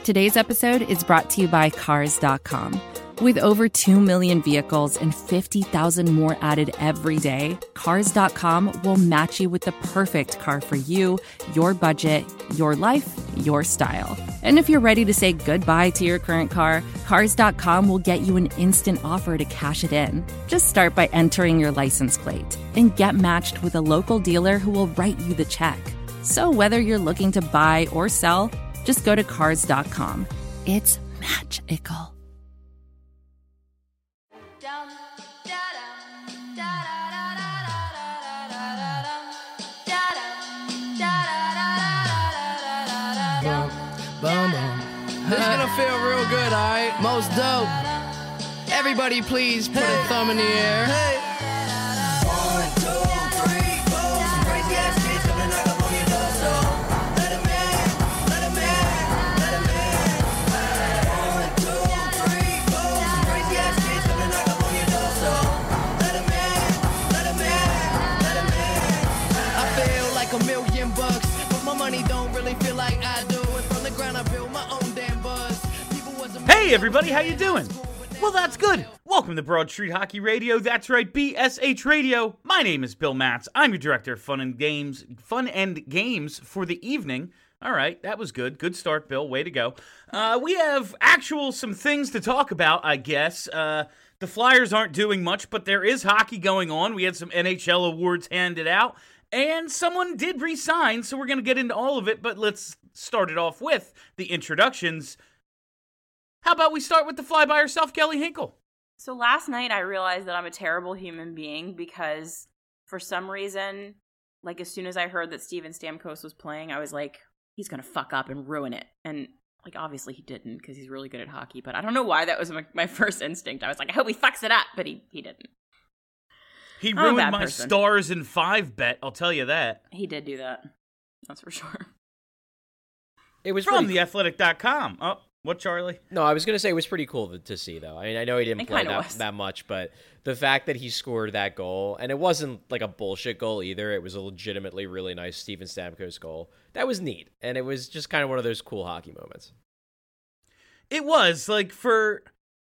Today's episode is brought to you by Cars.com. With over 2 million vehicles and 50,000 more added every day, Cars.com will match you with the perfect car for you, your budget, your life, your style. And if you're ready to say goodbye to your current car, Cars.com will get you an instant offer to cash it in. Just start by entering your license plate and get matched with a local dealer who will write you the check. So whether you're looking to buy or sell, just go to Cars.com. It's magical. This is gonna feel real good, alright? Most dope. Everybody please put a thumb in the air. Hey. 1, 2, 3, 4. Some crazy ass kids coming knock up on your door, so let 'em in, let 'em in, let 'em in. 1, 2, 3, 4. Some crazy ass kids coming knock up on your door, so let 'em in, let 'em in, let 'em in. I feel like $1,000,000, but my money don't really feel like I do. And from the ground I built my own damn buzz. Hey everybody, how you doing? Well, that's good. Welcome to Broad Street Hockey Radio. That's right, BSH Radio. My name is Bill Matz. I'm your director of fun and games for the evening. All right, that was good. Good start, Bill. Way to go. We have some things to talk about, I guess. The Flyers aren't doing much, but there is hockey going on. We had some NHL awards handed out, and someone did re-sign, so we're going to get into all of it, but let's start it off with the introductions. How about we start with the fly by herself, Kelly Hinkle? So last night I realized that I'm a terrible human being because for some reason, like as soon as I heard that Steven Stamkos was playing, I was like, he's going to fuck up and ruin it. And like obviously he didn't because he's really good at hockey, but I don't know why that was my first instinct. I was like, I hope he fucks it up, but he didn't. He ruined my Stars in 5 bet, I'll tell you that. He did do that. That's for sure. It was from theathletic.com. Oh. What, Charlie? No, I was going to say it was pretty cool to see, though. I mean, I know he didn't play that much, but the fact that he scored that goal, and it wasn't like a bullshit goal either. It was a legitimately really nice Steven Stamkos goal. That was neat, and it was just kind of one of those cool hockey moments. It was, like, for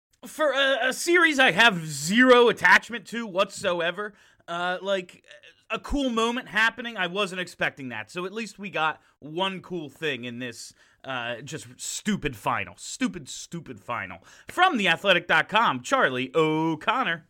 a series I have zero attachment to whatsoever, like, a cool moment happening, I wasn't expecting that. So at least we got one cool thing in this just stupid final. Stupid final. From theathletic.com, Charlie O'Connor.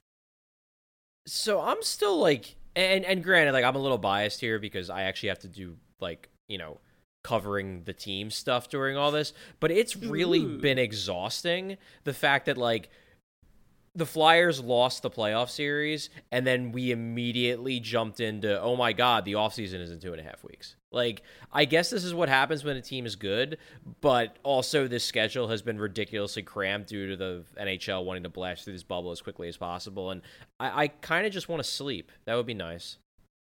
So I'm still like, and granted, like I'm a little biased here because I actually have to do like, covering the team stuff during all this, but it's really been exhausting. The fact that like the Flyers lost the playoff series, and then we immediately jumped into, oh my God, the offseason is in 2.5 weeks. Like, I guess this is what happens when a team is good, but also this schedule has been ridiculously cramped due to the NHL wanting to blast through this bubble as quickly as possible, and I kind of just want to sleep. That would be nice.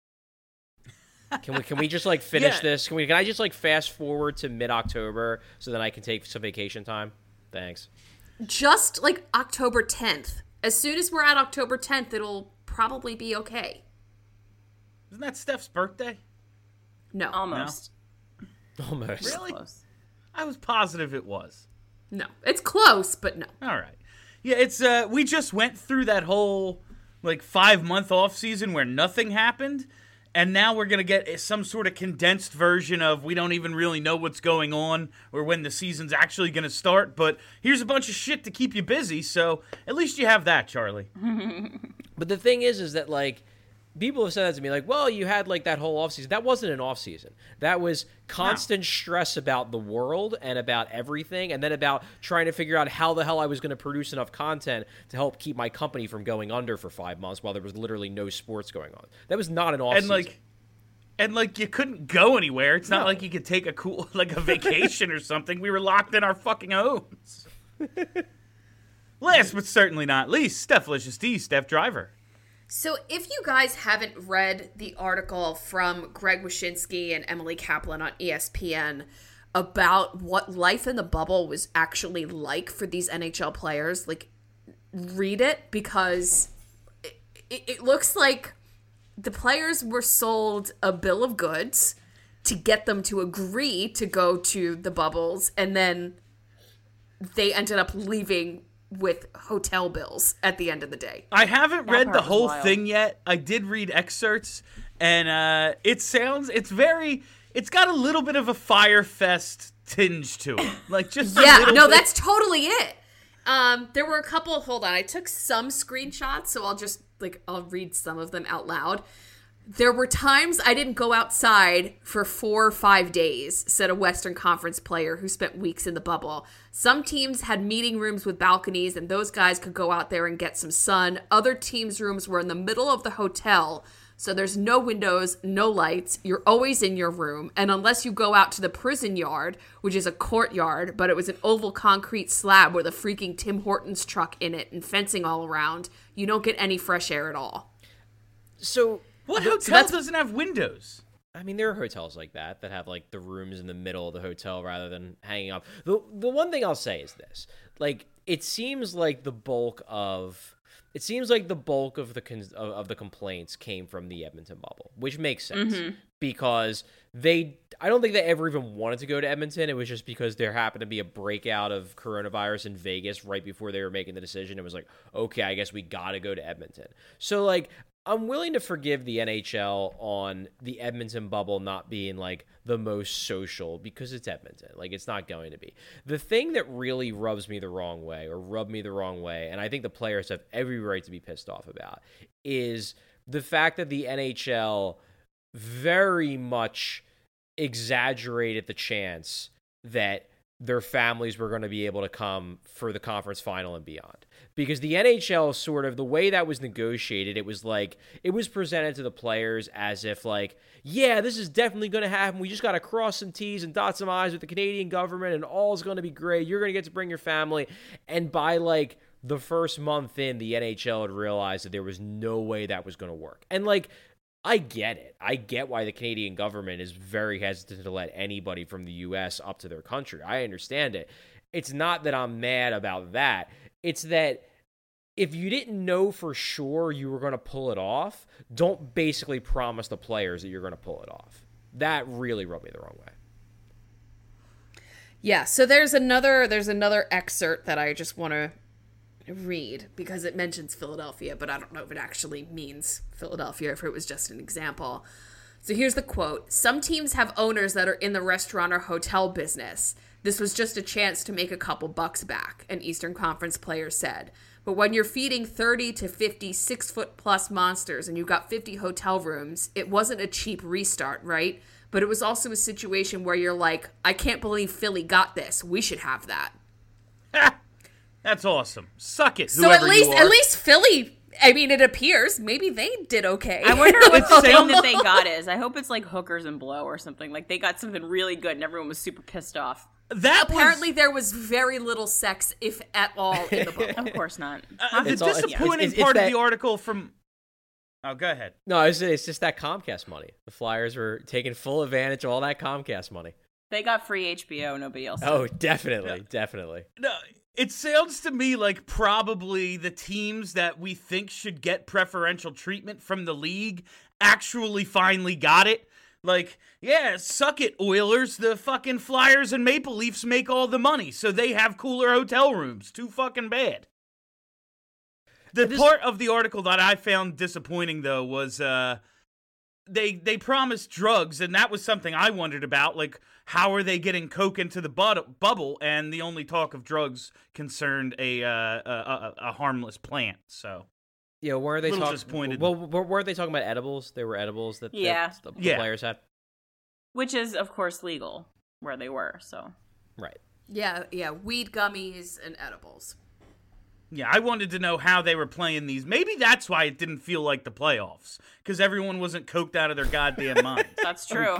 Can we just like finish this? Can I just like fast forward to mid-October so then I can take some vacation time? Thanks. Just like October 10th. As soon as we're at October 10th, it'll probably be okay. Isn't that Steph's birthday? No. Almost. No. Almost. Really? Close. I was positive it was. No. It's close, but no. All right. Yeah, it's we just went through that whole like 5-month off season where nothing happened. And now we're going to get some sort of condensed version of we don't even really know what's going on or when the season's actually going to start. But here's a bunch of shit to keep you busy, so at least you have that, Charlie. But the thing is that, like, people have said that to me, like, well, you had, like, that whole offseason. That wasn't an offseason. That was constant stress about the world and about everything, and then about trying to figure out how the hell I was going to produce enough content to help keep my company from going under for 5 months while there was literally no sports going on. That was not an offseason. And you couldn't go anywhere. It's not like you could take a vacation or something. We were locked in our fucking homes. Last but certainly not least, Steph-licious D, Steph Driver. So if you guys haven't read the article from Greg Wyshynski and Emily Kaplan on ESPN about what life in the bubble was actually like for these NHL players, like, read it, because it looks like the players were sold a bill of goods to get them to agree to go to the bubbles, and then they ended up leaving with hotel bills at the end of the day. I haven't That read part the was whole wild. thing yet. I did read excerpts, and it's got a little bit of a Fyre Fest tinge to it. Like, just a Yeah, little no, bit. that's totally it. There were a couple, hold on, I took some screenshots, so I'll read some of them out loud. There were times I didn't go outside for 4 or 5 days, said a Western Conference player who spent weeks in the bubble. Some teams had meeting rooms with balconies, and those guys could go out there and get some sun. Other teams' rooms were in the middle of the hotel, so there's no windows, no lights. You're always in your room, and unless you go out to the prison yard, which is a courtyard, but it was an oval concrete slab with a freaking Tim Hortons truck in it and fencing all around, you don't get any fresh air at all. So What so hotel that's- doesn't have windows? I mean, there are hotels like that have like the rooms in the middle of the hotel rather than hanging up. The one thing I'll say is this: like, it seems like the bulk of the complaints came from the Edmonton bubble, which makes sense because I don't think they ever even wanted to go to Edmonton. It was just because there happened to be a breakout of coronavirus in Vegas right before they were making the decision. It was like, okay, I guess we got to go to Edmonton. So like, I'm willing to forgive the NHL on the Edmonton bubble not being like the most social because it's Edmonton. Like, it's not going to be. The thing that really rubbed me the wrong way, and I think the players have every right to be pissed off about, is the fact that the NHL very much exaggerated the chance that their families were going to be able to come for the conference final and beyond. Because the NHL sort of, the way that was negotiated, it was like, it was presented to the players as if like, yeah, this is definitely going to happen. We just got to cross some T's and dot some I's with the Canadian government and all's going to be great. You're going to get to bring your family. And by like the first month in, the NHL had realized that there was no way that was going to work. And like, I get it. I get why the Canadian government is very hesitant to let anybody from the U.S. up to their country. I understand it. It's not that I'm mad about that. It's that if you didn't know for sure you were going to pull it off, don't basically promise the players that you're going to pull it off. That really rubbed me the wrong way. Yeah, so there's another excerpt that I just want to read because it mentions Philadelphia, but I don't know if it actually means Philadelphia, if it was just an example. So here's the quote. Some teams have owners that are in the restaurant or hotel business. This was just a chance to make a couple bucks back, an Eastern Conference player said. But when you're feeding 30 to 50 6-foot-plus monsters and you've got 50 hotel rooms, it wasn't a cheap restart, right? But it was also a situation where you're like, I can't believe Philly got this. We should have that. That's awesome. Suck it, So whoever at least you are. Philly, I mean, it appears maybe they did okay. I wonder what the thing sounds- that they got is. I hope it's like hookers and blow or something. Like they got something really good and everyone was super pissed off. That Apparently there was very little sex, if at all, in the book. Of course not. the It's all- it's- disappointing it's part of that- the article from... Oh, go ahead. No, it's just that Comcast money. The Flyers were taking full advantage of all that Comcast money. They got free HBO. Nobody else. Oh, definitely. No, it sounds to me like probably the teams that we think should get preferential treatment from the league actually finally got it. Like, yeah, suck it, Oilers. The fucking Flyers and Maple Leafs make all the money, so they have cooler hotel rooms. Too fucking bad. The part of the article that I found disappointing, though, was they promised drugs, and that was something I wondered about. Like, how are they getting coke into the bubble? And the only talk of drugs concerned a harmless plant. So Yeah, weren't they Little talking? disappointed. Well, weren't they talking about edibles? There were edibles that Yeah. the Yeah. players had. Which is, of course, legal where they were. So Right. Yeah, weed gummies and edibles. yeah, I wanted to know how they were playing these. Maybe that's why it didn't feel like the playoffs, because everyone wasn't coked out of their goddamn minds. that's true.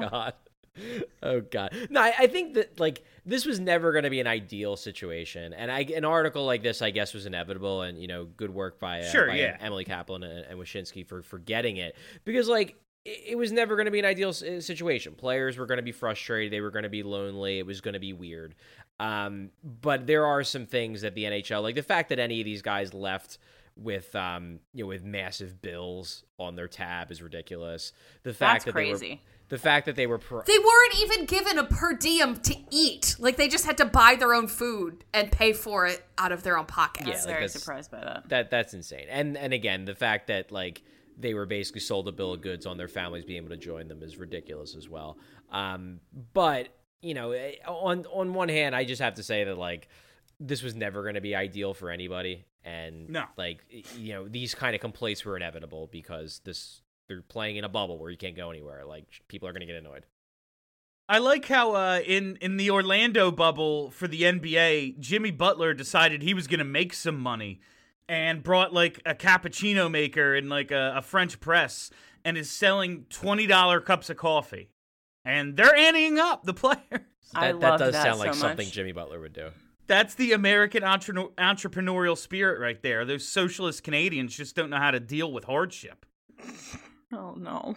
Oh God. No, I think that like this was never going to be an ideal situation, and an article like this, I guess, was inevitable. And good work by Emily Kaplan and Wyshynski for getting it, because like it was never going to be an ideal situation. Players were going to be frustrated. They were going to be lonely. It was going to be weird. But there are some things that the NHL, like the fact that any of these guys left with with massive bills on their tab is ridiculous. The fact That's crazy. The fact that they were They weren't even given a per diem to eat. Like, they just had to buy their own food and pay for it out of their own pockets. I was very surprised by that. That's insane. And again, the fact that like they were basically sold a bill of goods on their families being able to join them is ridiculous as well. But on one hand, I just have to say that like this was never going to be ideal for anybody, and No. like these kind of complaints were inevitable because they're playing in a bubble where you can't go anywhere. Like people are going to get annoyed. I like how in the Orlando bubble for the NBA, Jimmy Butler decided he was going to make some money and brought like a cappuccino maker and like a French press and is selling $20 cups of coffee. And they're anteing up the players. I That love does that sound so like something much. Jimmy Butler would do. That's the American entrepreneurial spirit right there. Those socialist Canadians just don't know how to deal with hardship. Oh, no.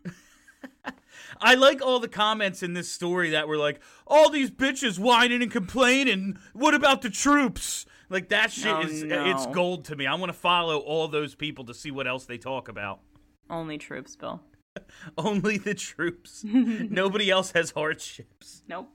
I like all the comments in this story that were like, all these bitches whining and complaining. What about the troops? Like, that shit Oh, it's no. gold to me. I want to follow all those people to see what else they talk about. Only troops, Bill. Only the troops. Nobody else has hardships. Nope.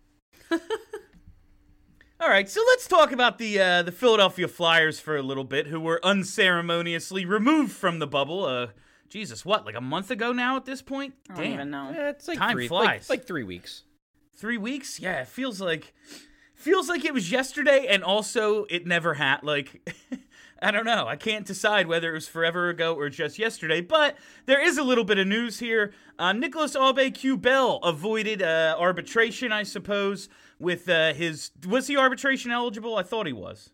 All right, so let's talk about the Philadelphia Flyers for a little bit, who were unceremoniously removed from the bubble. Jesus, what, like a month ago now at this point? I don't even know. It's like Time flies. like 3 weeks. 3 weeks? Yeah, it feels like it was yesterday, and also it never had. Like, I don't know. I can't decide whether it was forever ago or just yesterday. But there is a little bit of news here. Nicholas Aube-Kubel avoided arbitration, I suppose, with his. Was he arbitration eligible? I thought he was.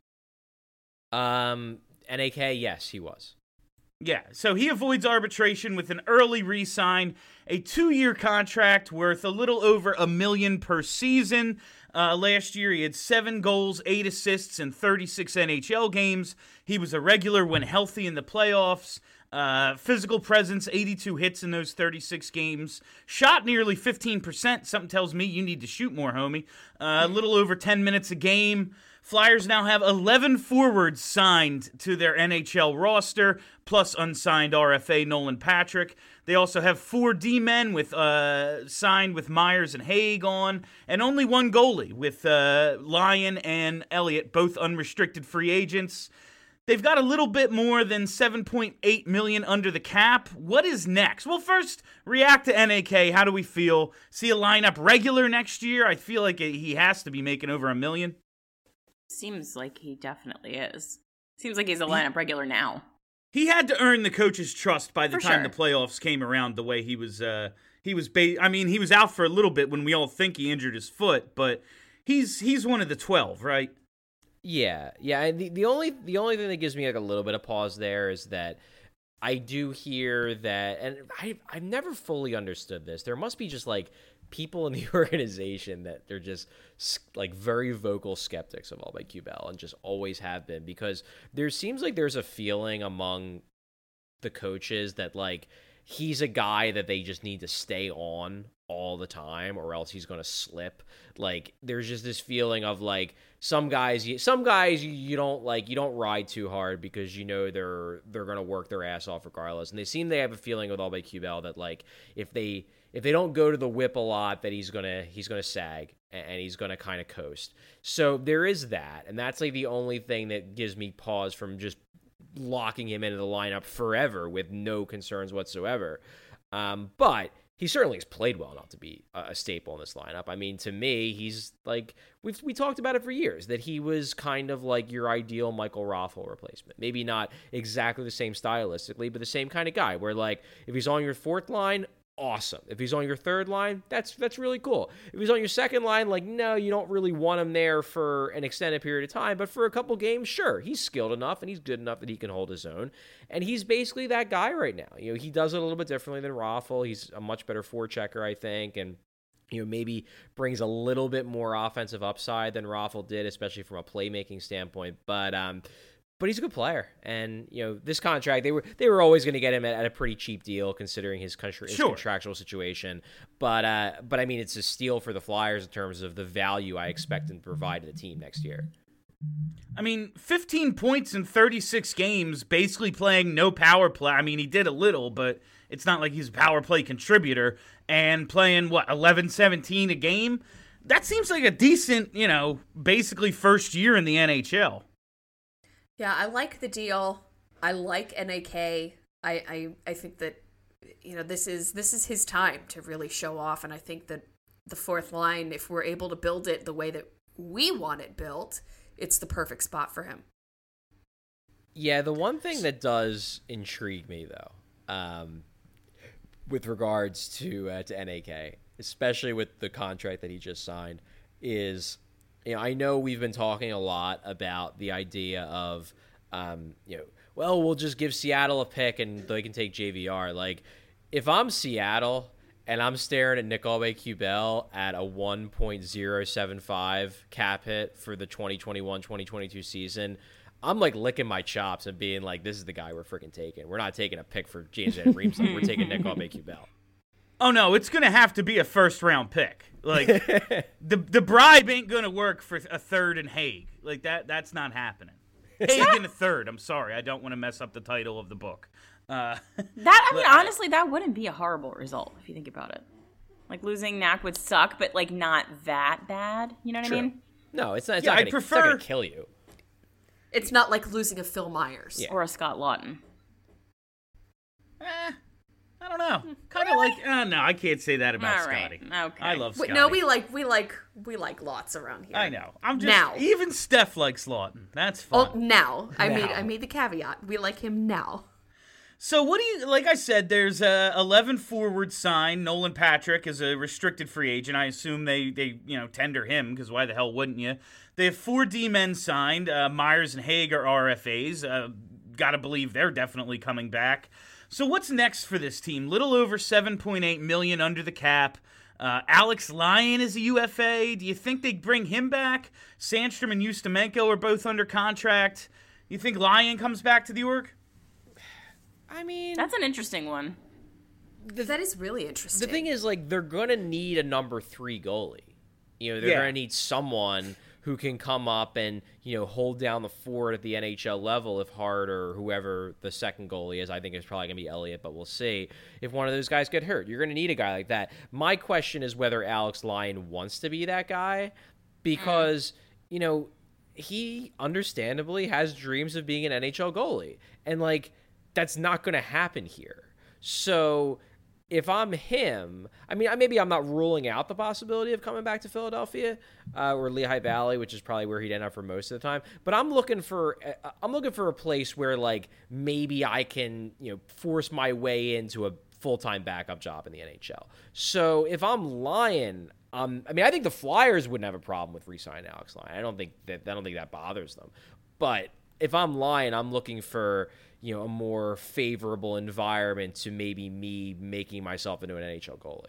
NAK, yes, he was. Yeah, so he avoids arbitration with an early re-sign, a 2-year contract worth a little over $1 million per season. Last year, he had 7 goals, 8 assists, in 36 NHL games. He was a regular when healthy in the playoffs. Physical presence, 82 hits in those 36 games. Shot nearly 15%. Something tells me you need to shoot more, homie. A little over 10 minutes a game. Flyers now have 11 forwards signed to their NHL roster, plus unsigned RFA Nolan Patrick. They also have 4 D-men with signed with Myers and Haig on, and only 1 goalie with Lyon and Elliott, both unrestricted free agents. They've got a little bit more than $7.8 million under the cap. What is next? Well, first, react to NAK. How do we feel? See a lineup regular next year? I feel like he has to be making over $1 million. Seems like he definitely is. Seems like he's a lineup regular now. He had to earn the coach's trust by the For time sure. the playoffs came around. The way he was he was out for a little bit when we all think he injured his foot, but he's one of the 12, right? Yeah. And the only thing that gives me like a little bit of pause there is that I do hear that, and I've never fully understood this. There must be just like people in the organization that they're just like very vocal skeptics of Aube-Kubel and just always have been, because there seems like there's a feeling among the coaches that like he's a guy that they just need to stay on all the time or else he's going to slip. Like there's just this feeling of like some guys you don't like, you don't ride too hard because you know they're going to work their ass off regardless. And they have a feeling with Aube-Kubel that like if they don't go to the whip a lot, that he's gonna sag and he's gonna kind of coast. So there is that, and that's like the only thing that gives me pause from just locking him into the lineup forever with no concerns whatsoever. But he certainly has played well enough to be a staple in this lineup. I mean, to me, he's like we talked about it for years that he was kind of like your ideal Michael Raffl replacement. Maybe not exactly the same stylistically, but the same kind of guy. Where like if he's on your 4th line, awesome. If he's on your 3rd line, that's really cool. If he's on your 2nd line, like, no, you don't really want him there for an extended period of time, but for a couple games, sure, he's skilled enough and he's good enough that he can hold his own, and he's basically that guy right now. You know, he does it a little bit differently than Raffl. He's a much better forechecker, I think, and maybe brings a little bit more offensive upside than Raffl did, especially from a playmaking standpoint, but he's a good player, and this contract they were always going to get him at a pretty cheap deal considering his contractual situation. But I mean, it's a steal for the Flyers in terms of the value I expect him to provide to the team next year. I mean, 15 points in 36 games, basically playing no power play. I mean, he did a little, but it's not like he's a power play contributor. And playing, 11-17 a game? That seems like a decent, basically first year in the NHL. Yeah, I like the deal. I like NAK. I think that, this is his time to really show off. And I think that the fourth line, if we're able to build it the way that we want it built, it's the perfect spot for him. Yeah, the one thing that does intrigue me, though, with regards to NAK, especially with the contract that he just signed, is, I know we've been talking a lot about the idea of, well, we'll just give Seattle a pick and they can take JVR. Like, if I'm Seattle and I'm staring at Nick Aube-Kubel at a 1.075 cap hit for the 2021-2022 season, I'm like licking my chops and being like, this is the guy we're freaking taking. We're not taking a pick for James Van Riemsdyk. We're taking Nick Aube-Kubel. Oh, no, it's going to have to be a first-round pick. Like, the bribe ain't going to work for a third in Hague. Like, that's not happening. Hague in a third. I'm sorry. I don't want to mess up the title of the book. Honestly, that wouldn't be a horrible result if you think about it. Like, losing Knack would suck, but, like, not that bad. You know what I mean? No, it's not. It's Yeah, not going to kill you. It's not like losing a Phil Myers. Yeah. Or a Scott Lawton. I don't know. Kind of like, no, I can't say that about All right. Scotty. Okay. I love Scotty. No, we like lots around here. I know. I'm just Now. even Steph likes Lawton. That's Oh, fine. now. I made the caveat. We like him now. So what do you like? I said there's 11 forwards signed. Nolan Patrick is a restricted free agent. I assume they tender him because why the hell wouldn't you? They have 4 D-men signed. Myers and Hague are RFAs. Got to believe they're definitely coming back. So what's next for this team? Little over $7.8 million under the cap. Alex Lyon is a UFA. Do you think they bring him back? Sandstrom and Ustimenko are both under contract. You think Lyon comes back to the org? I mean, That's an interesting one. That is really interesting. the thing is, like, they're going to need a number 3 goalie. They're Yeah. going to need someone who can come up and, hold down the fort at the NHL level if Hart or whoever the second goalie is. I think it's probably going to be Elliott, but we'll see. If one of those guys get hurt, you're going to need a guy like that. My question is whether Alex Lyon wants to be that guy because, he understandably has dreams of being an NHL goalie. And, like, that's not going to happen here. So if I'm him, I mean, maybe I'm not ruling out the possibility of coming back to Philadelphia or Lehigh Valley, which is probably where he'd end up for most of the time. But I'm looking for a place where, like, maybe I can, force my way into a full-time backup job in the NHL. So if I'm Lyon, I think the Flyers wouldn't have a problem with re-signing Alex Lyon. I don't think that bothers them. But if I'm Lyon, I'm looking for a more favorable environment to maybe me making myself into an NHL goalie.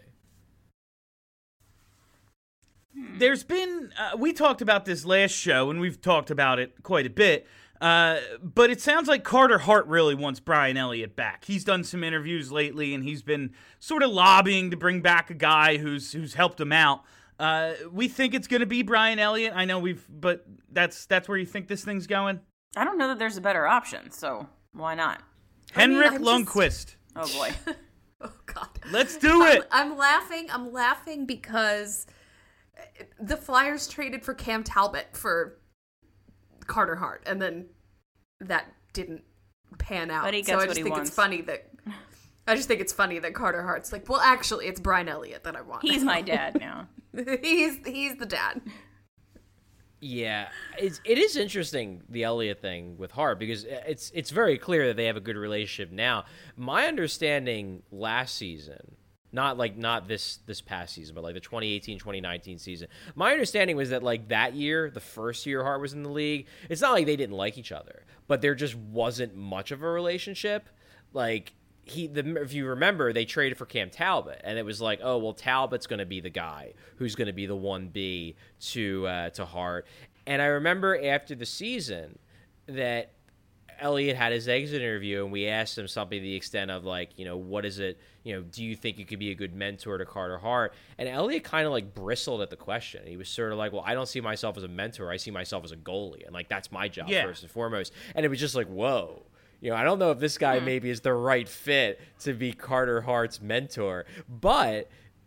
There's been, we talked about this last show, and we've talked about it quite a bit, but it sounds like Carter Hart really wants Brian Elliott back. He's done some interviews lately, and he's been sort of lobbying to bring back a guy who's helped him out. We think it's going to be Brian Elliott. I know but that's where you think this thing's going? I don't know that there's a better option, so why not? Henrik I'm Lundqvist. Oh, boy. Oh God. Let's do it. I'm laughing because the Flyers traded for Cam Talbot for Carter Hart, and then that didn't pan out. But he so gets I what just he think wants. it's funny that Carter Hart's like, well, actually, it's Brian Elliott that I want. He's my dad now. he's the dad. Yeah, it is interesting, the Elliott thing with Hart, because it's very clear that they have a good relationship now. My understanding last season, not this past season, but like the 2018-2019 season, my understanding was that like that year, the first year Hart was in the league, it's not like they didn't like each other, but there just wasn't much of a relationship. Like, if you remember, they traded for Cam Talbot, and it was like, oh, well, Talbot's going to be the guy who's going to be the 1B to Hart. And I remember after the season that Elliott had his exit interview, and we asked him something to the extent of like, what is it? Do you think you could be a good mentor to Carter Hart? And Elliott kind of like bristled at the question. He was sort of like, well, I don't see myself as a mentor. I see myself as a goalie, and like that's my job first and foremost. And it was just like, whoa. I don't know if this guy maybe is the right fit to be Carter Hart's mentor, but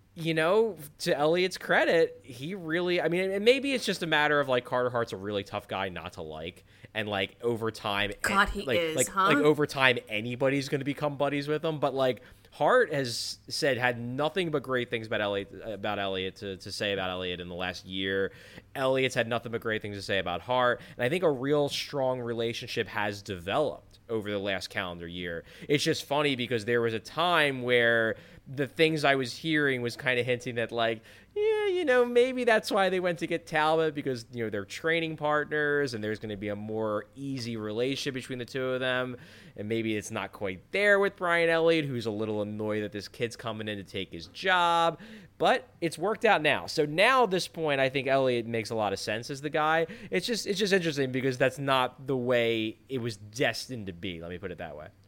to Elliott's credit, he really, and maybe it's just a matter of like Carter Hart's a really tough guy not to like, and like over time, God, he is, huh? Like over time, anybody's going to become buddies with him. But like Hart has had nothing but great things about Elliott to say about Elliott in the last year. Elliott's had nothing but great things to say about Hart, and I think a real strong relationship has developed over the last calendar year. It's just funny because there was a time where the things I was hearing was kind of hinting that like, maybe that's why they went to get Talbot, because, they're training partners and there's going to be a more easy relationship between the two of them. And maybe it's not quite there with Brian Elliott, who's a little annoyed that this kid's coming in to take his job. But it's worked out now. So now at this point, I think Elliott makes a lot of sense as the guy. It's just interesting because that's not the way it was destined to be. Let me put it that way.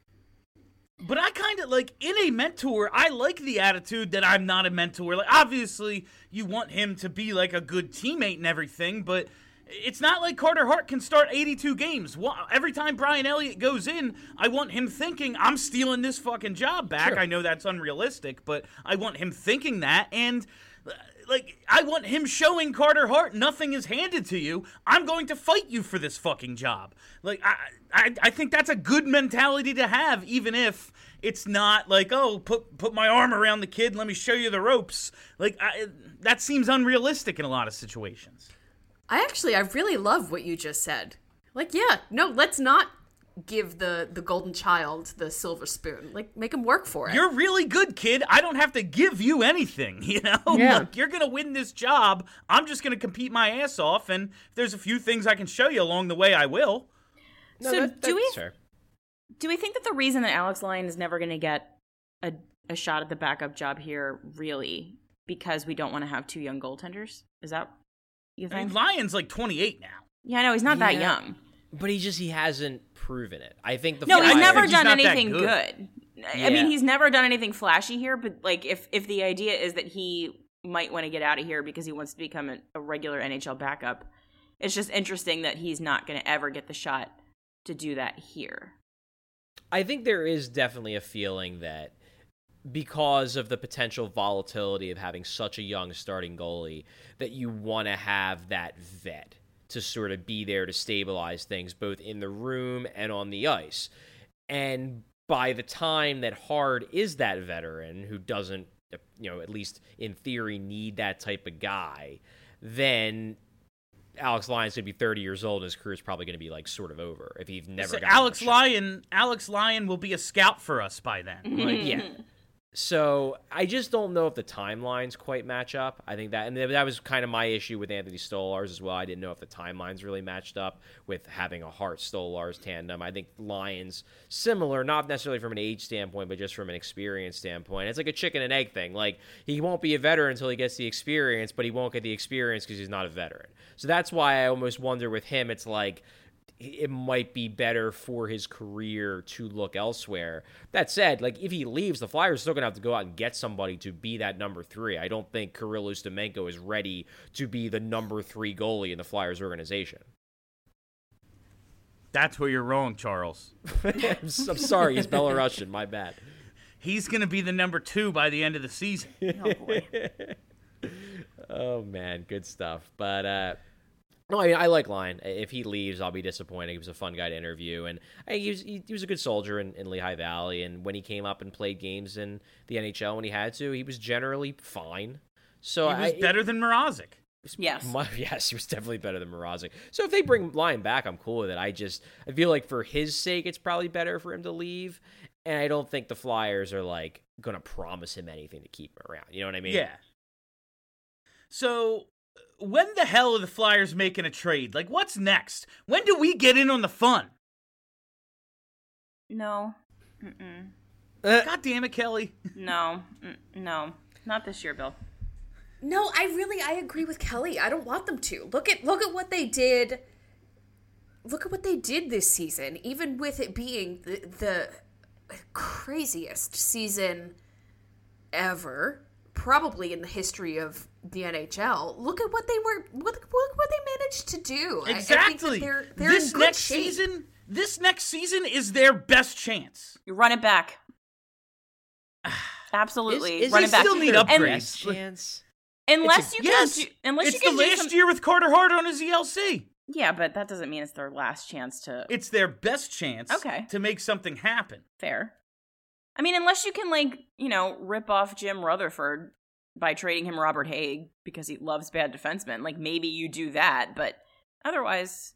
But I kind of like, in a mentor, I like the attitude that I'm not a mentor. Like, obviously, you want him to be like a good teammate and everything, but it's not like Carter Hart can start 82 games. Every time Brian Elliott goes in, I want him thinking, I'm stealing this fucking job back. Sure. I know that's unrealistic, but I want him thinking that, and like, I want him showing Carter Hart, nothing is handed to you. I'm going to fight you for this fucking job. Like, I think that's a good mentality to have, even if it's not like, oh, put my arm around the kid, let me show you the ropes. Like, that seems unrealistic in a lot of situations. I really love what you just said. Like, yeah, no, let's not give the golden child the silver spoon. Like, make him work for it. You're really good, kid. I don't have to give you anything, Yeah. Like, you're going to win this job. I'm just going to compete my ass off, and if there's a few things I can show you along the way, I will. No, so that's fair. Do we think that the reason that Alex Lyon is never going to get a shot at the backup job here, really, because we don't want to have two young goaltenders? Is that you think? I mean, Lyon's like 28 now. Yeah, I know, he's not that young. But he hasn't proven it. I think he's never done anything good. Yeah. I mean, he's never done anything flashy here, but like if the idea is that he might want to get out of here because he wants to become a regular NHL backup, it's just interesting that he's not going to ever get the shot to do that here. I think there is definitely a feeling that because of the potential volatility of having such a young starting goalie, that you want to have that vet to sort of be there to stabilize things both in the room and on the ice. And by the time that Hart is that veteran who doesn't, at least in theory, need that type of guy, then Alex Lyon's going to be 30 years old and his career is probably going to be like sort of over if he's never got Alex Lyon will be a scout for us by then. Like, yeah. So I just don't know if the timelines quite match up. I think that was kind of my issue with Anthony Stolarz as well. I didn't know if the timelines really matched up with having a Hart-Stolarz tandem. I think Lyon's similar, not necessarily from an age standpoint, but just from an experience standpoint. It's like a chicken and egg thing. Like, he won't be a veteran until he gets the experience, but he won't get the experience because he's not a veteran. So that's why I almost wonder with him, it's like, it might be better for his career to look elsewhere. That said, like, if he leaves, the Flyers are still going to have to go out and get somebody to be that number 3. I don't think Kirill Ustimenko is ready to be the number 3 goalie in the Flyers organization. That's where you're wrong, Charles. I'm sorry, he's Belarusian. My bad. He's going to be the number 2 by the end of the season. Oh, boy. Oh, man. Good stuff. But, no, I mean, I like Lyon. If he leaves, I'll be disappointed. He was a fun guy to interview, and he was a good soldier in Lehigh Valley. And when he came up and played games in the NHL when he had to, he was generally fine. So he was better than Mrazek. Yes. Yes, he was definitely better than Mrazek. So if they bring Lyon back, I'm cool with it. I feel like for his sake, it's probably better for him to leave. And I don't think the Flyers are like going to promise him anything to keep him around. You know what I mean? Yeah. So when the hell are the Flyers making a trade? Like, what's next? When do we get in on the fun? No. Mm-mm. God damn it, Kelly. No. No. Not this year, Bill. No, I agree with Kelly. I don't want them to. Look at what they did look at what they did this season, even with it being the craziest season ever, probably in the history of the NHL. Look at what what they managed to do. Exactly. I think that they're this in good next shape. season, this next season is their best chance. You run it back. Absolutely, Is run it it back. still need And- upgrades. Chance. Unless you Yes, can, unless it's you can the do last some, year with Carter Hart on his ELC. yeah, but that doesn't mean it's their last chance to. It's their best chance Okay. to make something happen. Fair. I mean, unless you can, like, rip off Jim Rutherford by trading him Robert Haig because he loves bad defensemen. Like, maybe you do that, but otherwise,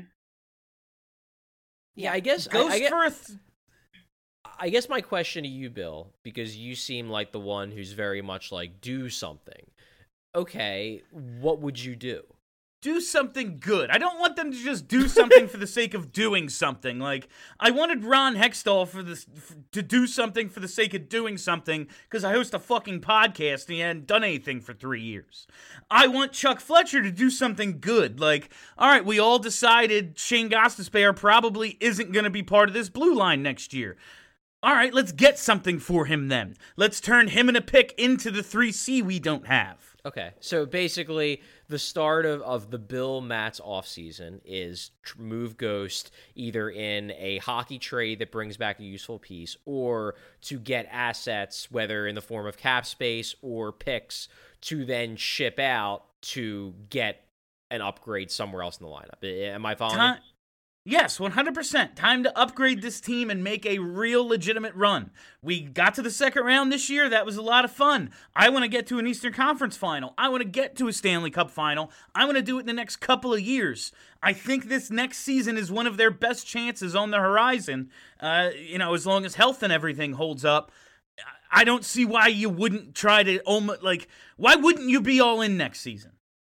Yeah, I guess Ghost Firth. I guess my question to you, Bill, because you seem like the one who's very much like, do something. Okay, what would you do? Do something good. I don't want them to just do something for the sake of doing something. Like, I wanted Ron Hextall to do something for the sake of doing something because I host a fucking podcast and he hadn't done anything for 3 years. I want Chuck Fletcher to do something good. Like, all right, we all decided Shane Gostisbehere probably isn't going to be part of this blue line next year. All right, let's get something for him then. Let's turn him and a pick into the 3C we don't have. Okay, so basically, the start of the Bill Matz offseason is move Ghost either in a hockey trade that brings back a useful piece or to get assets, whether in the form of cap space or picks, to then ship out to get an upgrade somewhere else in the lineup. Am I following you? Yes, 100%. Time to upgrade this team and make a real legitimate run. We got to the second round this year. That was a lot of fun. I want to get to an Eastern Conference final. I want to get to a Stanley Cup final. I want to do it in the next couple of years. I think this next season is one of their best chances on the horizon, as long as health and everything holds up. I don't see why you wouldn't try to why wouldn't you be all in next season?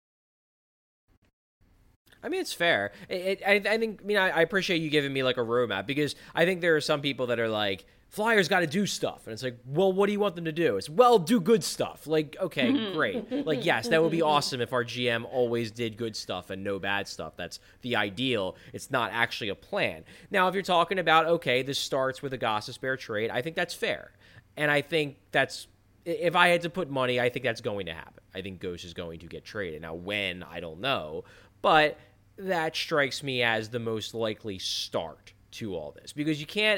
I mean, it's fair. I think, I appreciate you giving me like a roadmap because I think there are some people that are like, Flyers got to do stuff. And it's like, well, what do you want them to do? It's, well, do good stuff. Like, okay, great. Like, yes, that would be awesome if our GM always did good stuff and no bad stuff. That's the ideal. It's not actually a plan. Now, if you're talking about, okay, this starts with a Gostisbehere trade, I think that's fair. And I think that's, if I had to put money, I think that's going to happen. I think Ghost is going to get traded. Now, when, I don't know. But that strikes me as the most likely start to all this because you can't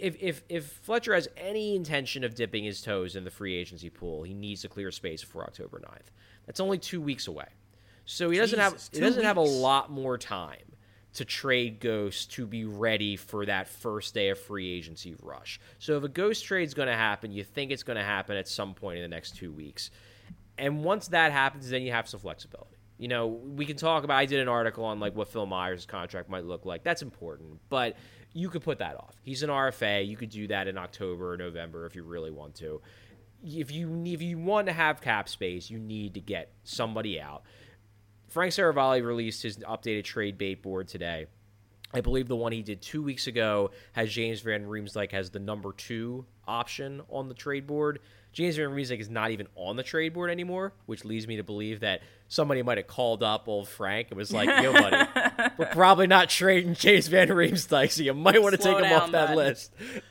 if Fletcher has any intention of dipping his toes in the free agency pool, he needs to clear space before October 9th. That's only 2 weeks away, so he doesn't have a lot more time to trade Ghost to be ready for that first day of free agency rush. So if a Ghost trade is going to happen, you think it's going to happen at some point in the next 2 weeks, and once that happens, then you have some flexibility. We can talk about, I did an article on like what Phil Myers' contract might look like. That's important, but you could put that off. He's an RFA. You could do that in October or November if you really want to. If you want to have cap space, you need to get somebody out. Frank Saravalli released his updated trade bait board today. I believe the one he did 2 weeks ago has James Van Riemsdyk as the number 2 option on the trade board. James Van Riemsdyk is not even on the trade board anymore, which leads me to believe that somebody might have called up old Frank and was like, yo, buddy, we're probably not trading James Van Riemsdyk, so you might want to take him off that list.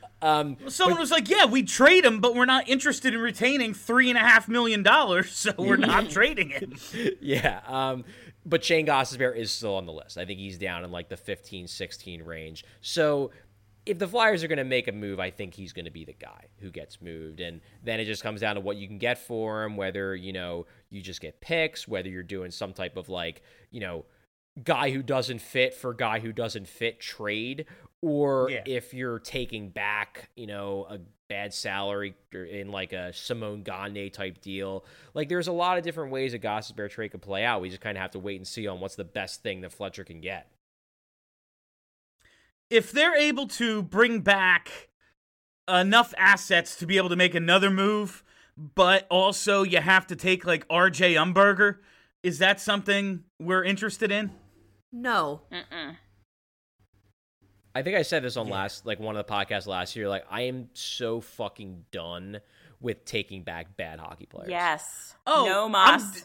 Someone was like, yeah, we trade him, but we're not interested in retaining $3.5 million, so we're not trading him. Yeah, but Shane Gostisbehere is still on the list. I think he's down in like the 15-16 range. So if the Flyers are going to make a move, I think he's going to be the guy who gets moved. And then it just comes down to what you can get for him, whether, you just get picks, whether you're doing some type of like, guy who doesn't fit for guy who doesn't fit trade, or if you're taking back, a bad salary in like a Simone Gagne type deal. Like there's a lot of different ways a Gostisbehere trade could play out. We just kind of have to wait and see on what's the best thing that Fletcher can get. If they're able to bring back enough assets to be able to make another move, but also you have to take like RJ Umberger, is that something we're interested in? No. I think I said this on one of the podcasts last year. Like, I am so fucking done with taking back bad hockey players. Yes. Oh, no mas.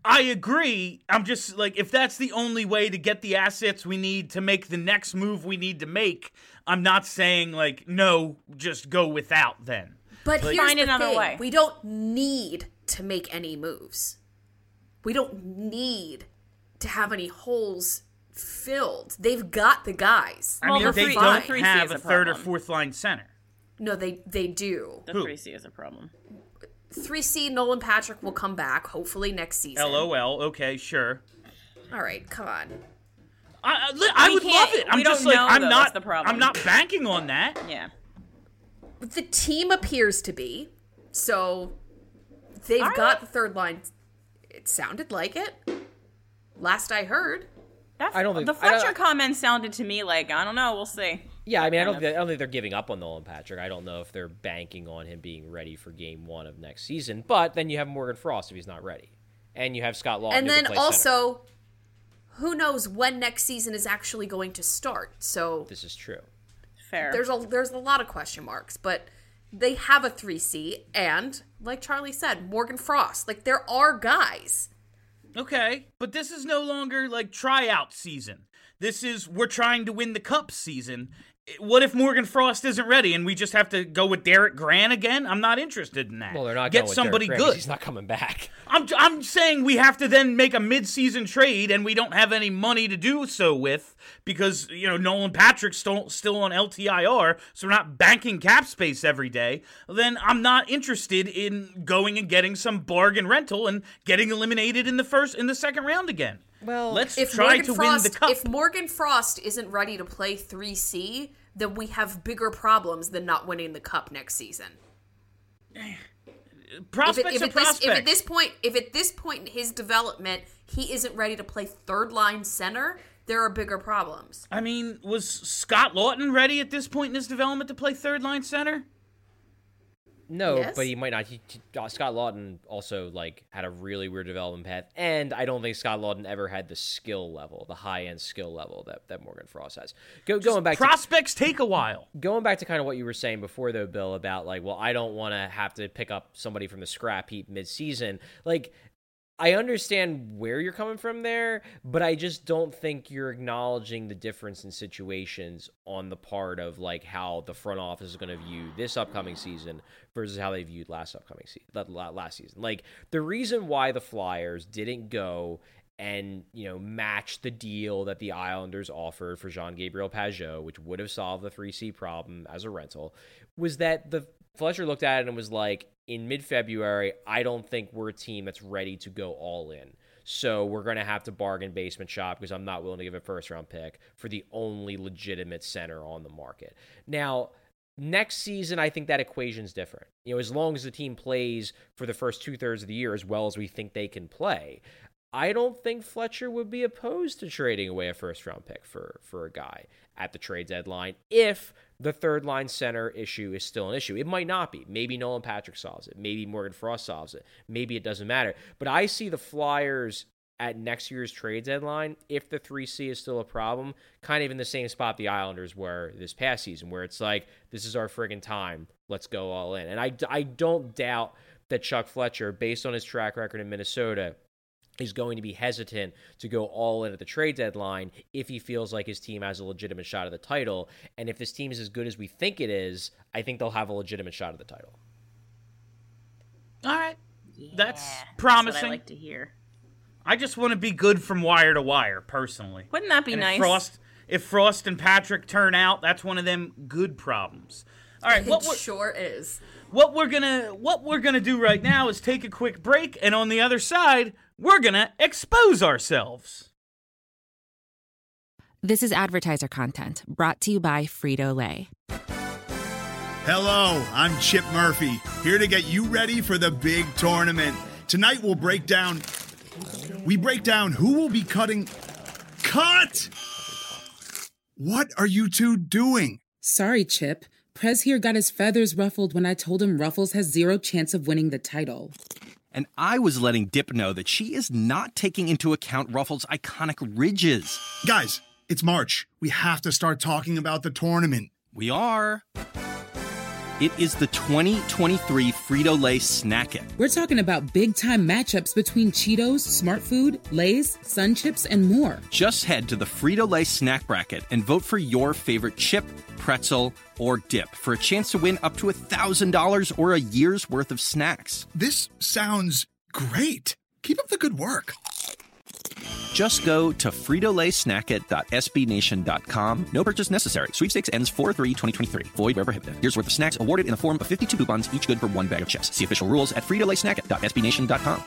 I agree. I'm just like, if that's the only way to get the assets we need to make the next move we need to make, I'm not saying like, no, just go without then. But here's Find the another thing. way. We don't need to make any moves. We don't need to have any holes filled. They've got the guys. I Well, mean, the they three- don't the 3C have is a a third or problem. fourth line center. No, they do. The Who? 3C is a problem. 3C Nolan Patrick will come back hopefully next season. LOL. Okay, sure. All right, come on. I would love can't- it. I'm we just don't like, know, I'm though, not. that's the problem. I'm not banking on that. Yeah. The team appears to be. So they've All right. got the third line. It sounded like it. Last I heard. I don't think- the I don't- Fletcher comment sounded to me like, I don't know, we'll see. Yeah, I mean, I don't think they're giving up on Nolan Patrick. I don't know if they're banking on him being ready for Game 1 of next season. But then you have Morgan Frost if he's not ready, and you have Scott Lawton. And who can then play center. also, who knows when next season is actually going to start? So This is true. Fair. there's a lot of question marks, but they have a 3C, and like Charlie said, Morgan Frost. Like there are guys. Okay, but this is no longer like tryout season. This is we're trying to win the cup season. What if Morgan Frost isn't ready and we just have to go with Derek Grant again? I'm not interested in that. Well, they're not get going with somebody Derek Grant 'cause good. He's not coming back. I'm saying we have to then make a mid-season trade, and we don't have any money to do so with because Nolan Patrick's still on LTIR, so we're not banking cap space every day. Then I'm not interested in going and getting some bargain rental and getting eliminated in the second round again. Well, let's If try Morgan to Frost, win the cup. if Morgan Frost isn't ready to play 3C, then we have bigger problems than not winning the cup next season. Prospects are prospects. If at this point in his development he isn't ready to play third line center, there are bigger problems. I mean, was Scott Lawton ready at this point in his development to play third line center? No, Yes? but he might not. Scott Lawton also had a really weird development path, and I don't think Scott Lawton ever had the skill level, the high end skill level that Morgan Frost has. Going back Prospects take a while. Going back to kind of what you were saying before, though, Bill, about I don't want to have to pick up somebody from the scrap heap mid-season. I understand where you're coming from there, but I just don't think you're acknowledging the difference in situations on the part of how the front office is going to view this upcoming season versus how they viewed last season. The reason why the Flyers didn't go and match the deal that the Islanders offered for Jean-Gabriel Pageau, which would have solved the 3C problem as a rental, was that the Fletcher looked at it and was like, in mid-February, I don't think we're a team that's ready to go all in. So we're going to have to bargain basement shop because I'm not willing to give a first-round pick for the only legitimate center on the market. Now, next season, I think that equation's different. As long as the team plays for the first two-thirds of the year as well as we think they can play, I don't think Fletcher would be opposed to trading away a first-round pick for a guy at the trade deadline if the third-line center issue is still an issue. It might not be. Maybe Nolan Patrick solves it. Maybe Morgan Frost solves it. Maybe it doesn't matter. But I see the Flyers at next year's trade deadline, if the 3C is still a problem, kind of in the same spot the Islanders were this past season, where it's this is our friggin' time. Let's go all in. And I don't doubt that Chuck Fletcher, based on his track record in Minnesota, is going to be hesitant to go all in at the trade deadline if he feels like his team has a legitimate shot at the title. And if this team is as good as we think it is, I think they'll have a legitimate shot at the title. All right. That's That's promising. what I like to hear. I just want to be good from wire to wire, personally. Wouldn't that be And nice? If Frost and Patrick turn out, that's one of them good problems. All right, It sure is. what we're gonna do right now is take a quick break, and on the other side, we're gonna expose ourselves. This is advertiser content brought to you by Frito-Lay. Hello, I'm Chip Murphy, here to get you ready for the big tournament. Tonight we'll break down who will be cutting. Cut! What are you two doing? Sorry, Chip. Prez here got his feathers ruffled when I told him Ruffles has zero chance of winning the title. And I was letting Dip know that she is not taking into account Ruffles' iconic ridges. Guys, it's March. We have to start talking about the tournament. We are. It is the 2023 Frito-Lay Snack It. We're talking about big-time matchups between Cheetos, Smart Food, Lay's, Sun Chips, and more. Just head to the Frito-Lay Snack Bracket and vote for your favorite chip, pretzel, or dip for a chance to win up to $1,000 or a year's worth of snacks. This sounds great. Keep up the good work. Just go to fritolaysnackit.sbnation.com. No purchase necessary. Sweepstakes ends 4/3/2023. Void where prohibited. Year's worth of snacks awarded in the form of 52 coupons, each good for one bag of chips. See official rules at fritolaysnackit.sbnation.com.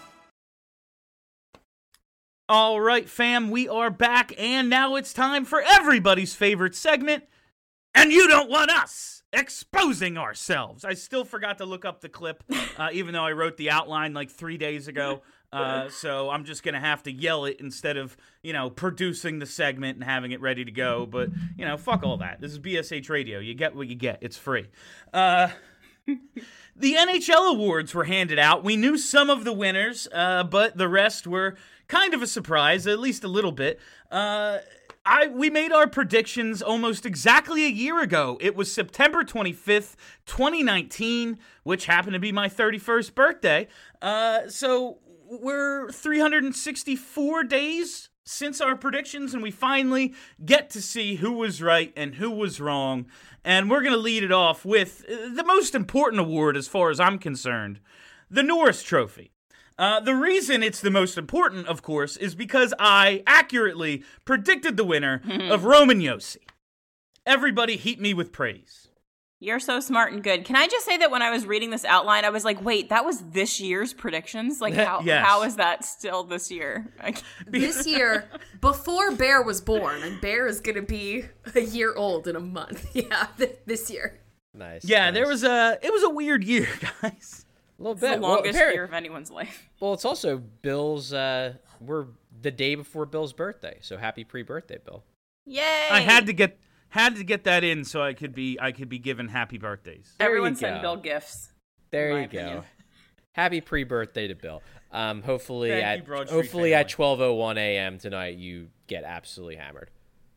All right, fam, we are back, and now it's time for everybody's favorite segment, and you don't want us exposing ourselves. I still forgot to look up the clip, even though I wrote the outline like 3 days ago. So I'm just going to have to yell it instead of, producing the segment and having it ready to go. But, fuck all that. This is BSH Radio. You get what you get. It's free. The NHL awards were handed out. We knew some of the winners, but the rest were kind of a surprise, at least a little bit. We made our predictions almost exactly a year ago. It was September 25th, 2019, which happened to be my 31st birthday. So we're 364 days since our predictions, and we finally get to see who was right and who was wrong. And we're going to lead it off with the most important award as far as I'm concerned, the Norris Trophy. The reason it's the most important, of course, is because I accurately predicted the winner of Roman Josi. Everybody heap me with praise. You're so smart and good. Can I just say that when I was reading this outline, I was like, wait, that was this year's predictions? Like, how is that still this year? This year, before Bear was born, and Bear is going to be a year old in a month. Yeah, this year. Nice. Yeah, nice. It was a weird year, guys. A little It's bit. the longest year of anyone's life. Well, it's also Bill's, we're the day before Bill's birthday, so happy pre-birthday, Bill. Yay! I had to get that in so I could be given happy birthdays. Everyone send Bill gifts. There you go. Happy pre-birthday to Bill. Hopefully Thank you, at Broad Street at family. 12:01 a.m. tonight you get absolutely hammered.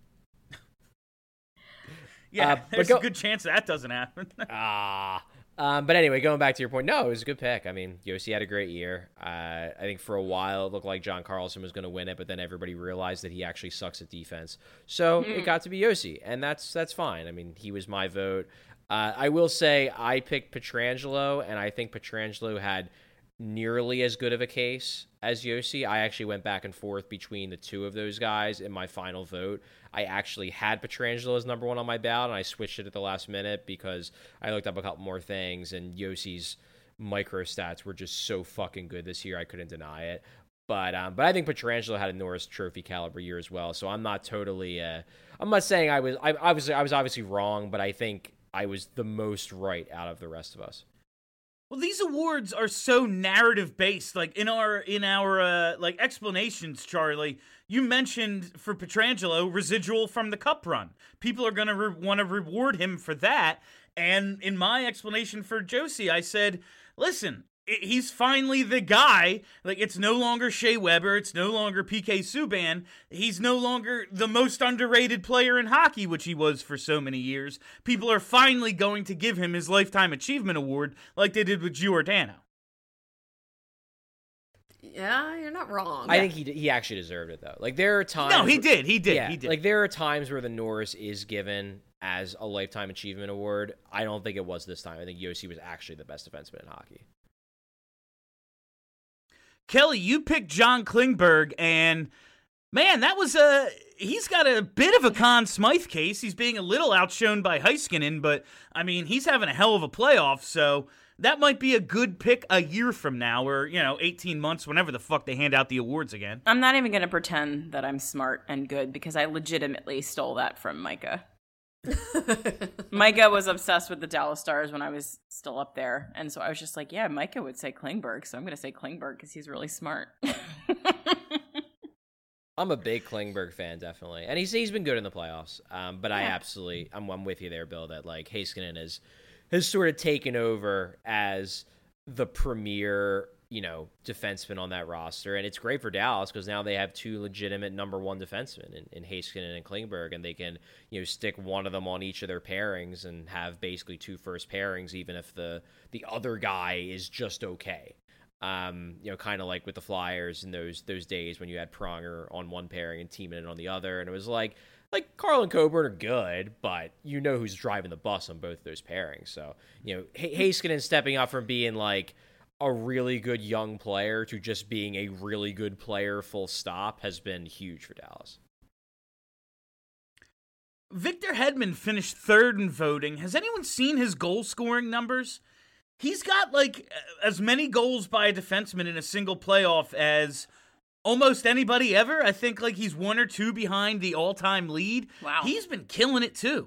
Yeah, but there's a good chance that doesn't happen. But anyway, going back to your point, no, it was a good pick. I mean, Josi had a great year. I think for a while it looked like John Carlson was going to win it, but then everybody realized that he actually sucks at defense. So it got to be Josi, and that's fine. I mean, he was my vote. I will say I picked Pietrangelo, and I think Pietrangelo had nearly as good of a case as Josi. I actually went back and forth between the two of those guys in my final vote. I actually had Pietrangelo as number one on my ballot, and I switched it at the last minute because I looked up a couple more things, and Josi's micro stats were just so fucking good this year, I couldn't deny it. But I think Pietrangelo had a Norris Trophy caliber year as well, so I'm not totally. I'm not saying I was obviously wrong, but I think I was the most right out of the rest of us. Well, these awards are so narrative based. Like in our like explanations, Charlie, you mentioned for Pietrangelo residual from the Cup run. People are gonna want to reward him for that. And in my explanation for Josi, I said, listen, he's finally the guy. Like, it's no longer Shea Weber. It's no longer PK Subban. He's no longer the most underrated player in hockey, which he was for so many years. People are finally going to give him his Lifetime Achievement Award like they did with Giordano. Yeah, you're not wrong. I think he actually deserved it, though. Like, there are times... No, he did. Yeah, like, there are times where the Norris is given as a Lifetime Achievement Award. I don't think it was this time. I think Josi was actually the best defenseman in hockey. Kelly, you picked John Klingberg, and man, that was he's got a bit of a Conn Smythe case. He's being a little outshone by Heiskanen, but I mean, he's having a hell of a playoff, so that might be a good pick a year from now, or 18 months, whenever the fuck they hand out the awards again. I'm not even going to pretend that I'm smart and good because I legitimately stole that from Micah. Micah was obsessed with the Dallas Stars when I was still up there, and so I was just like, yeah, Micah would say Klingberg, so I'm going to say Klingberg because he's really smart. I'm a big Klingberg fan, definitely, and he's been good in the playoffs. But yeah. I'm with you there, Bill. That like Heiskanen has sort of taken over as the premier defensemen on that roster. And it's great for Dallas because now they have two legitimate number one defensemen in Heiskanen and Klingberg, and they can, stick one of them on each of their pairings and have basically two first pairings, even if the other guy is just okay. Kind of like with the Flyers in those days when you had Pronger on one pairing and Timonen on the other, and it was like Carl and Coburn are good, but who's driving the bus on both of those pairings. So, Heiskanen stepping up from being like a really good young player to just being a really good player full stop has been huge for Dallas. Victor Hedman finished third in voting. Has anyone seen his goal scoring numbers? He's got as many goals by a defenseman in a single playoff as almost anybody ever. I think he's one or two behind the all-time lead. Wow. He's been killing it too.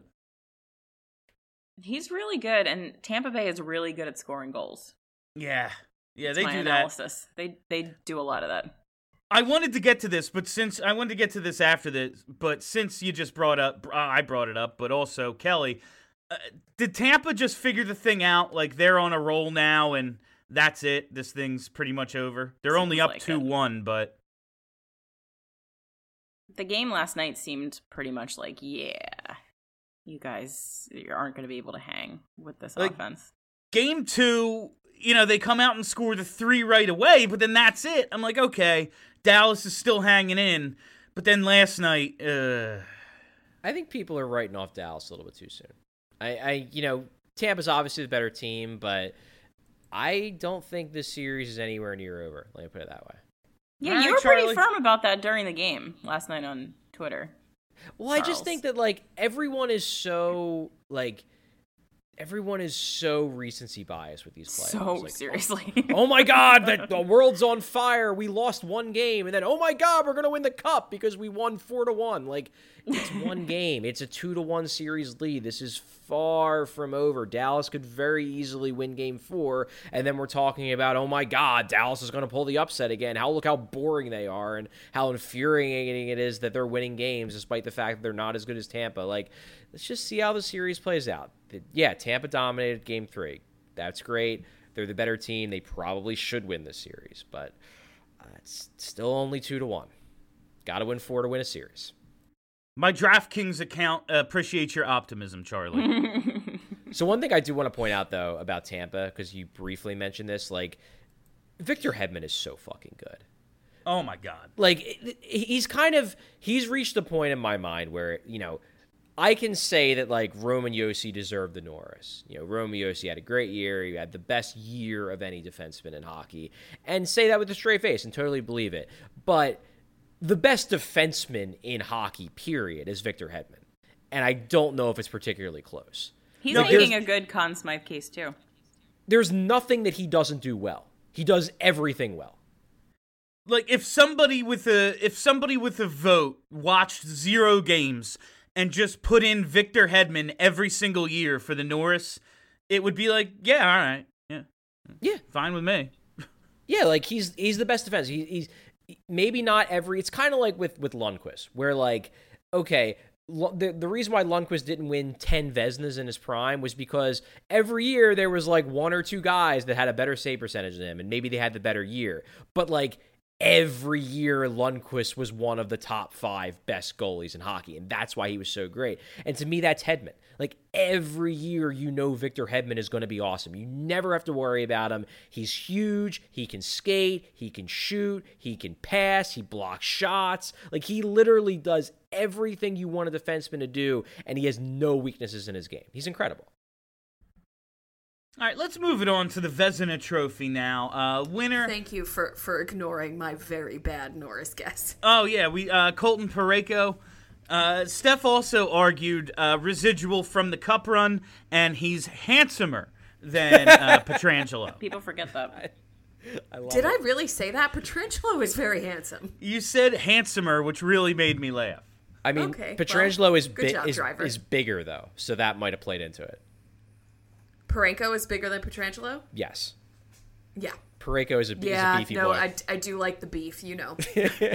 He's really good, and Tampa Bay is really good at scoring goals. Yeah, That's they my do analysis. They do a lot of that. I wanted to get to this, after this, but since you just brought up, I brought it up, but also Kelly, did Tampa just figure the thing out? They're on a roll now, and that's it. This thing's pretty much over. They're only up 2-1, but the game last night seemed pretty much you guys aren't going to be able to hang with this offense. Game 2, they come out and score the 3 right away, but then that's it. I'm like, okay, Dallas is still hanging in. But then last night, I think people are writing off Dallas a little bit too soon. Tampa's obviously the better team, but I don't think this series is anywhere near over. Let me put it that way. Yeah, you were pretty firm about that during the game last night on Twitter. Well, Charles. I just think that everyone is so recency biased with these players. So seriously. Oh my God, the world's on fire. We lost one game, and then oh my God, we're gonna win the cup because we won 4-1. It's one game. It's a 2-1 series lead. This is far from over. Dallas could very easily win Game 4, and then we're talking about oh my God, Dallas is gonna pull the upset again. Look how boring they are, and how infuriating it is that they're winning games despite the fact that they're not as good as Tampa. Let's just see how the series plays out. Yeah, Tampa dominated Game 3. That's great. They're the better team. They probably should win this series, but it's still only 2-1. Got to win 4 to win a series. My DraftKings account appreciates your optimism, Charlie. So one thing I do want to point out, though, about Tampa, because you briefly mentioned this, Victor Hedman is so fucking good. Oh, my God. He's reached a point in my mind where, I can say that, Roman Josi deserved the Norris. Roman Josi had a great year. He had the best year of any defenseman in hockey. And say that with a straight face and totally believe it. But the best defenseman in hockey, period, is Victor Hedman. And I don't know if it's particularly close. He's making a good Conn Smythe case, too. There's nothing that he doesn't do well. He does everything well. If somebody with a vote watched 0 games and just put in Victor Hedman every single year for the Norris, it would be yeah, all right. Yeah. Fine with me. Yeah, he's the best defense. He's maybe not every... It's kind of like with Lundqvist, where, okay, the reason why Lundqvist didn't win 10 Vezinas in his prime was because every year there was, 1 or 2 guys that had a better save percentage than him, and maybe they had the better year. But, every year Lundqvist was one of the top 5 best goalies in hockey, and that's why he was so great. And to me, that's Hedman. Every year Victor Hedman is going to be awesome. You never have to worry about him. He's huge. He can skate. He can shoot. He can pass. He blocks shots. He literally does everything you want a defenseman to do, and he has no weaknesses in his game. He's incredible. All right, let's move it on to the Vezina Trophy now. Winner. Thank you for ignoring my very bad Norris guess. Oh yeah, we Colton Parayko. Steph also argued residual from the Cup run, and he's handsomer than Pietrangelo. People forget that. Did I really say that? Pietrangelo is very handsome. You said handsomer, which really made me laugh. I mean, okay, Pietrangelo is bigger though, so that might have played into it. Parayko is bigger than Pietrangelo? Yes. Yeah. Parayko is a beefy boy. I do like the beef, you know.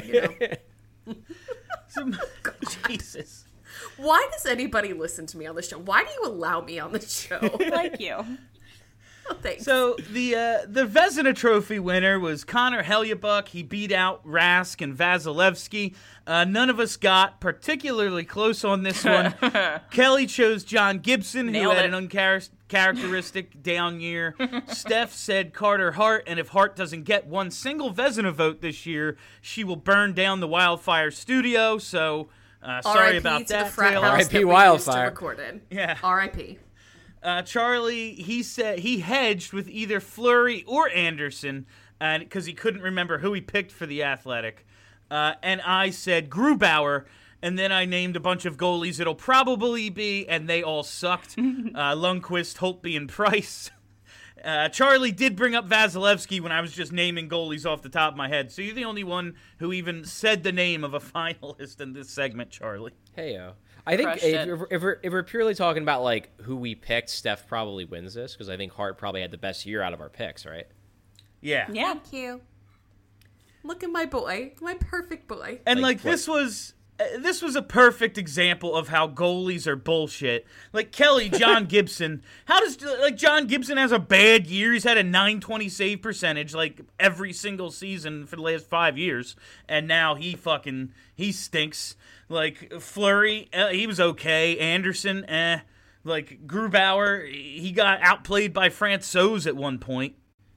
Jesus. Why does anybody listen to me on the show? Why do you allow me on the show? Thank you. Thanks. So the Vezina Trophy winner was Connor Hellebuyck. He beat out Rask and Vasilevsky. None of us got particularly close on this one. Kelly chose John Gibson, Nailed who had it. an uncharacteristic down year. Steph said Carter Hart, and if Hart doesn't get one single Vezina vote this year, she will burn down the Wildfire Studio. So sorry about to that, the frat Taylor. house R.I.P. that we Wildfire. used to record in. Yeah. R.I.P. Charlie, he said he hedged with either Fleury or Anderson because he couldn't remember who he picked for the Athletic. And I said Grubauer, and then I named a bunch of goalies it'll probably be, and they all sucked. Lundqvist, Holtby, and Price. Charlie did bring up Vasilevsky when I was just naming goalies off the top of my head, so you're the only one who even said the name of a finalist in this segment, Charlie. Hey-o. I think Crushed if we're purely talking about like who we picked, Steph probably wins this because I think Hart probably had the best year out of our picks, right? Yeah. Yeah. Thank you. Look at my boy, my perfect boy. And Like, this was a perfect example of how goalies are bullshit. Like Kelly, John Gibson. How does John Gibson has a bad year? He's had a .920 save percentage like every single season for the last 5 years, and now he stinks. Like Fleury, he was okay. Anderson, Like Grubauer, he got outplayed by Francouz at one point.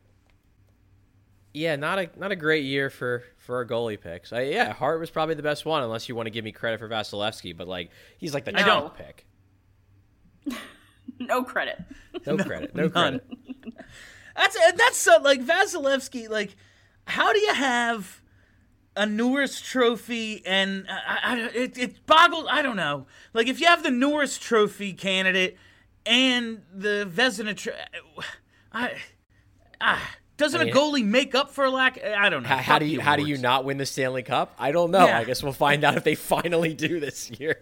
Yeah, not a great year for our goalie picks. Hart was probably the best one, unless you want to give me credit for Vasilevsky, but like he's like the I don't. top pick. No credit. No credit. No credit. That's so, like Vasilevsky. Like, how do you have a Norris Trophy and it boggles? I don't know. Like, if you have the Norris Trophy candidate and the Vezina, doesn't a goalie make up for a lack? I don't know. How do you not win the Stanley Cup? I don't know. Yeah. I guess we'll find out if they finally do this year.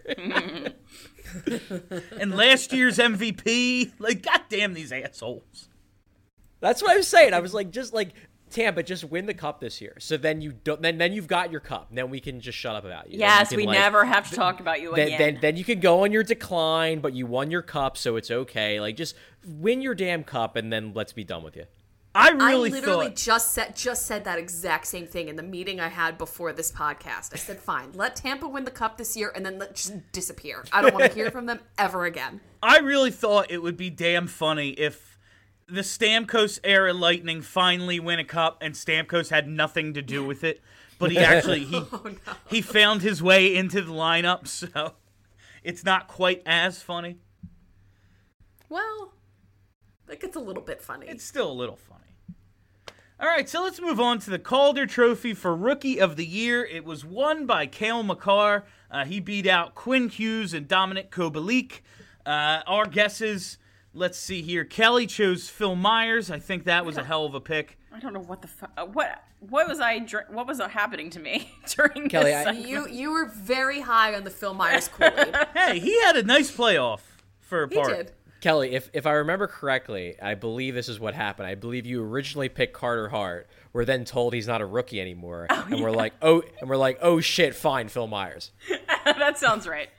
And last year's MVP, like, goddamn these assholes. That's what I was saying. I was like, just like Tampa, just win the cup this year. So then you don't. Then you've got your cup. Then we can just shut up about you. Yes, Then we you can, never have to talk about you again. Then you can go on your decline, but you won your cup, so it's okay. Like, just win your damn cup, and then let's be done with you. I I really literally thought just said that exact same thing in the meeting I had before this podcast. I said, fine, let Tampa win the cup this year and then let just disappear. I don't want to hear from them ever again. I really thought it would be damn funny if the Stamkos era Lightning finally win a cup and Stamkos had nothing to do with it, but he actually he found his way into the lineup, so it's not quite as funny. Well, that gets a little bit funny. It's still a little funny. All right, so let's move on to the Calder Trophy for Rookie of the Year. It was won by Cale Makar. He beat out Quinn Hughes and Dominic Kubalik. Our guesses, let's see here. Kelly chose Phil Myers. I think that was a hell of a pick. I don't know what the fuck. What was what was happening to me during Kelly, this? You were very high on the Phil Myers Kool-Aid. Hey, he had a nice playoff for a He part. did. Kelly, if I remember correctly, I believe this is what happened. I believe you originally picked Carter Hart. We're then told he's not a rookie anymore, we're like, oh shit, fine, Phil Myers. That sounds right.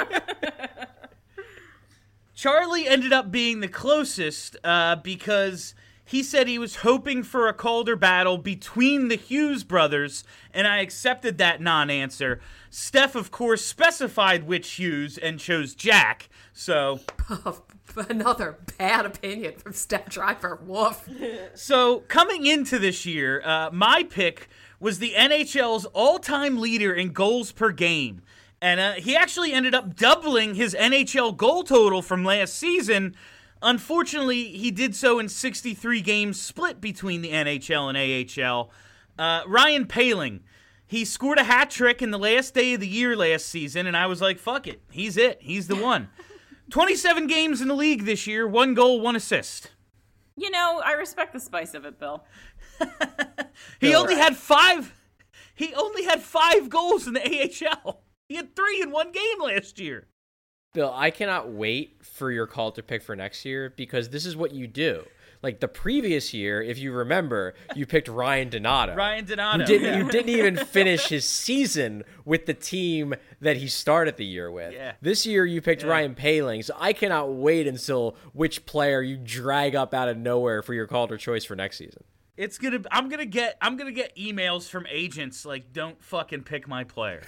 Charlie ended up being the closest because he said he was hoping for a Calder battle between the Hughes brothers, and I accepted that non-answer. Steph, of course, specified which Hughes and chose Jack, so... Another bad opinion from Steph Driver. Woof. So, coming into this year, my pick was the NHL's all-time leader in goals per game. And he actually ended up doubling his NHL goal total from last season. Unfortunately, he did so in 63 games split between the NHL and AHL. Ryan Poehling, he scored a hat trick in the last day of the year last season, and I was like, fuck it. He's it. He's the one. 27 games in the league this year, 1 goal, 1 assist. You know, I respect the spice of it, Bill. He only had 5 goals in the AHL. He had 3 in 1 game last year. Bill, I cannot wait for your Calder pick for next year because this is what you do. Like the previous year, if you remember, you picked Ryan Donato. Ryan Donato. You didn't even finish his season with the team that he started the year with. Yeah. This year you picked Ryan Poehling, so I cannot wait until which player you drag up out of nowhere for your Calder choice for next season. I'm gonna get emails from agents like, don't fucking pick my player.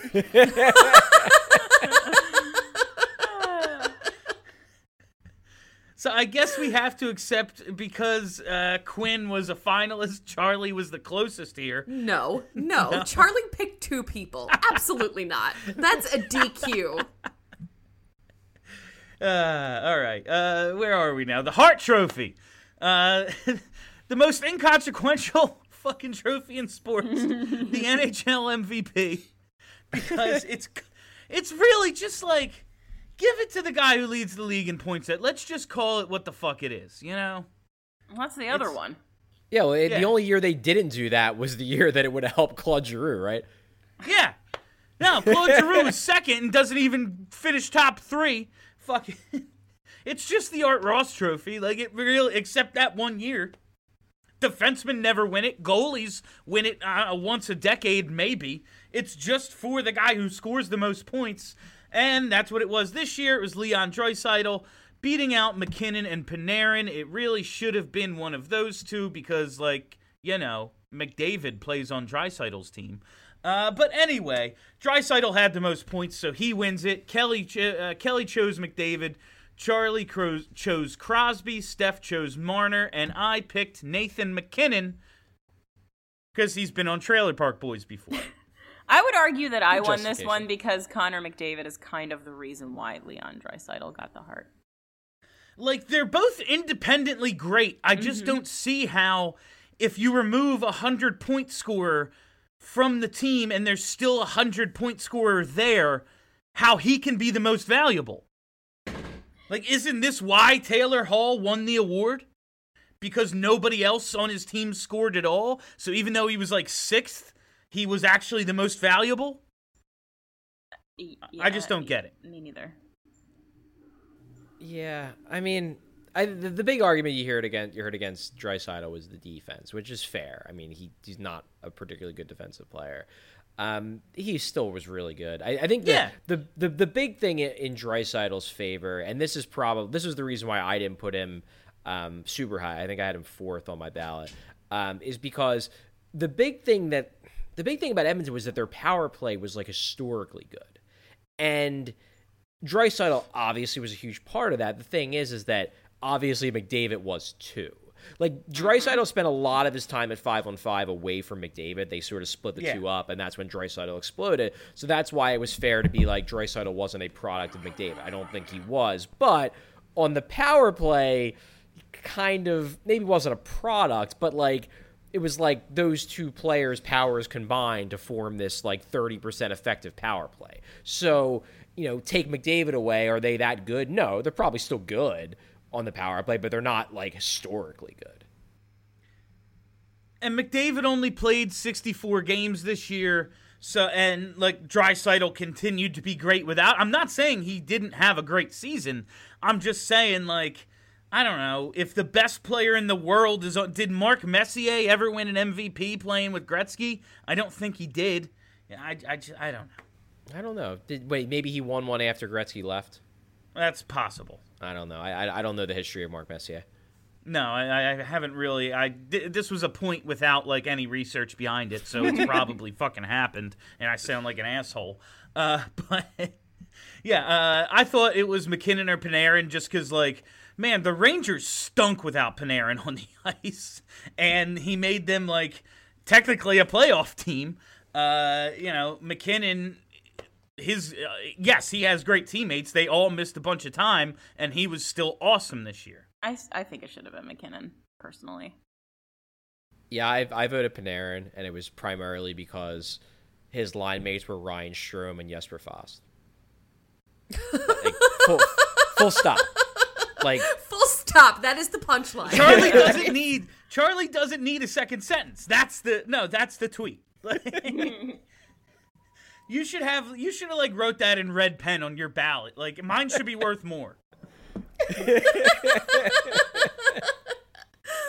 So I guess we have to accept, because Quinn was a finalist, Charlie was the closest here. No. Charlie picked 2 people. Absolutely not. That's a DQ. All right. Where are we now? The Hart Trophy. The most inconsequential fucking trophy in sports. The NHL MVP. Because it's really just like, give it to the guy who leads the league in points. Let's just call it what the fuck it is, you know? What's the other one? Yeah, well, the only year they didn't do that was the year that it would have helped Claude Giroux, right? Yeah. No, Claude Giroux is second and doesn't even finish top 3. Fuck it. It's just the Art Ross Trophy. Like, it really, except that one year. Defensemen never win it. Goalies win it once a decade, maybe. It's just for the guy who scores the most points. And that's what it was this year. It was Leon Draisaitl beating out McKinnon and Panarin. It really should have been one of those two because, like, you know, McDavid plays on Draisaitl's team. But anyway, Draisaitl had the most points, so he wins it. Kelly chose McDavid. Charlie chose Crosby. Steph chose Marner. And I picked Nathan McKinnon because he's been on Trailer Park Boys before. I would argue that I won this one because Connor McDavid is kind of the reason why Leon Draisaitl got the Hart. Like, they're both independently great. I just don't see how, if you remove a 100-point scorer from the team and there's still a 100-point scorer there, how he can be the most valuable. Like, isn't this why Taylor Hall won the award? Because nobody else on his team scored at all? So even though he was, like, 6th, he was actually the most valuable? Yeah, I just don't get it. Me neither. Yeah, I mean, the big argument you heard against Draisaitl was the defense, which is fair. I mean, he's not a particularly good defensive player. He still was really good. I think the big thing in Draisaitl's favor, and this is the reason why I didn't put him super high. I think I had him 4th on my ballot, is because the big thing about Edmonton was that their power play was like historically good, and Draisaitl obviously was a huge part of that. The thing is that obviously McDavid was too. Like, Draisaitl spent a lot of his time at 5-on-5 away from McDavid. They sort of split the two up, and that's when Draisaitl exploded. So that's why it was fair to be like Draisaitl wasn't a product of McDavid. I don't think he was. But on the power play, kind of, maybe wasn't a product, but like, it was like those two players' powers combined to form this like 30% effective power play. So, you know, take McDavid away, are they that good? No, they're probably still good on the power play, but they're not like historically good. And McDavid only played 64 games this year, so, and like Draisaitl continued to be great without. I'm not saying he didn't have a great season. I'm just saying, like, I don't know, if the best player in the world is, did Mark Messier ever win an MVP playing with Gretzky? I don't think he did. I don't know. I don't know. Maybe he won one after Gretzky left? That's possible. I don't know. I don't know the history of Mark Messier. No, I haven't really. This was a point without like any research behind it, so it's probably fucking happened, and I sound like an asshole. But yeah, I thought it was McKinnon or Panarin just because, like, man, the Rangers stunk without Panarin on the ice, and he made them like technically a playoff team. You know, McKinnon. Yes, he has great teammates. They all missed a bunch of time, and he was still awesome this year. I think it should have been McKinnon, personally. Yeah, I voted Panarin, and it was primarily because his line mates were Ryan Strome and Jesper Fast. Like, full stop. Like, full stop. That is the punchline. Charlie doesn't need a second sentence. That's the tweet. You should have like wrote that in red pen on your ballot. Like, mine should be worth more.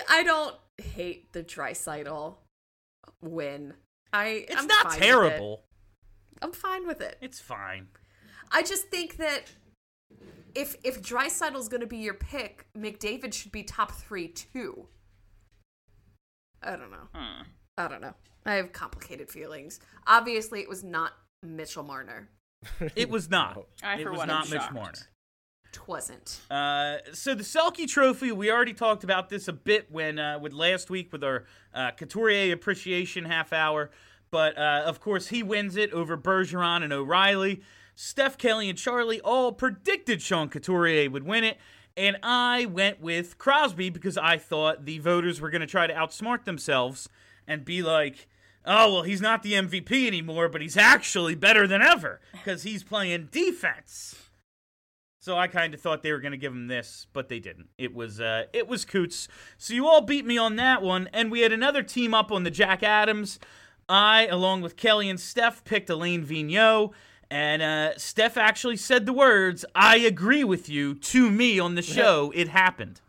I don't hate the Draisaitl win. It's I'm not fine with terrible. it. I'm fine with it. It's fine. I just think that if Draisaitl's going to be your pick, McDavid should be top 3 too. I don't know. I don't know. I have complicated feelings. Obviously, it was not Mitchell Marner. It was not. I, it for was one, not am Mitch shocked. Marner. Twasn't. So the Selke Trophy, we already talked about this a bit with last week with our Couturier appreciation half hour. But, of course, he wins it over Bergeron and O'Reilly. Steph, Kelly, and Charlie all predicted Sean Couturier would win it. And I went with Crosby because I thought the voters were going to try to outsmart themselves and be like, oh, well, he's not the MVP anymore, but he's actually better than ever because he's playing defense. So I kind of thought they were going to give him this, but they didn't. It was Coots. So you all beat me on that one, and we had another team up on the Jack Adams. I, along with Kelly and Steph, picked Alain Vigneault, and Steph actually said the words, "I agree with you," to me on the show. It happened.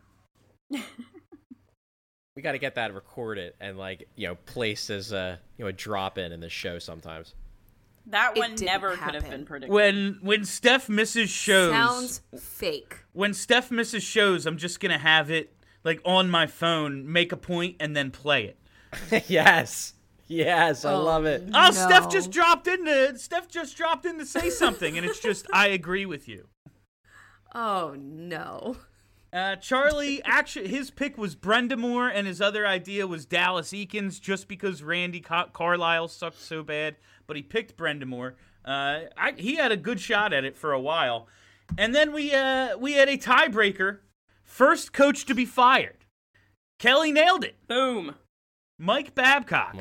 We got to get that recorded and placed as a drop in the show sometimes. That It one didn't never could have happen. been predicted. When Steph misses shows, Sounds fake. when Steph misses shows, I'm just gonna have it on my phone, make a point, and then play it. Yes, I love it. Oh, No. Steph just dropped in to say something, and it's just, I agree with you. Oh, no. Charlie, actually, his pick was Brenda Moore, and his other idea was Dallas Eakins, just because Randy Carlisle sucked so bad. But he picked Brenda Moore. He had a good shot at it for a while. And then we had a tiebreaker. First coach to be fired. Kelly nailed it. Boom. Mike Babcock.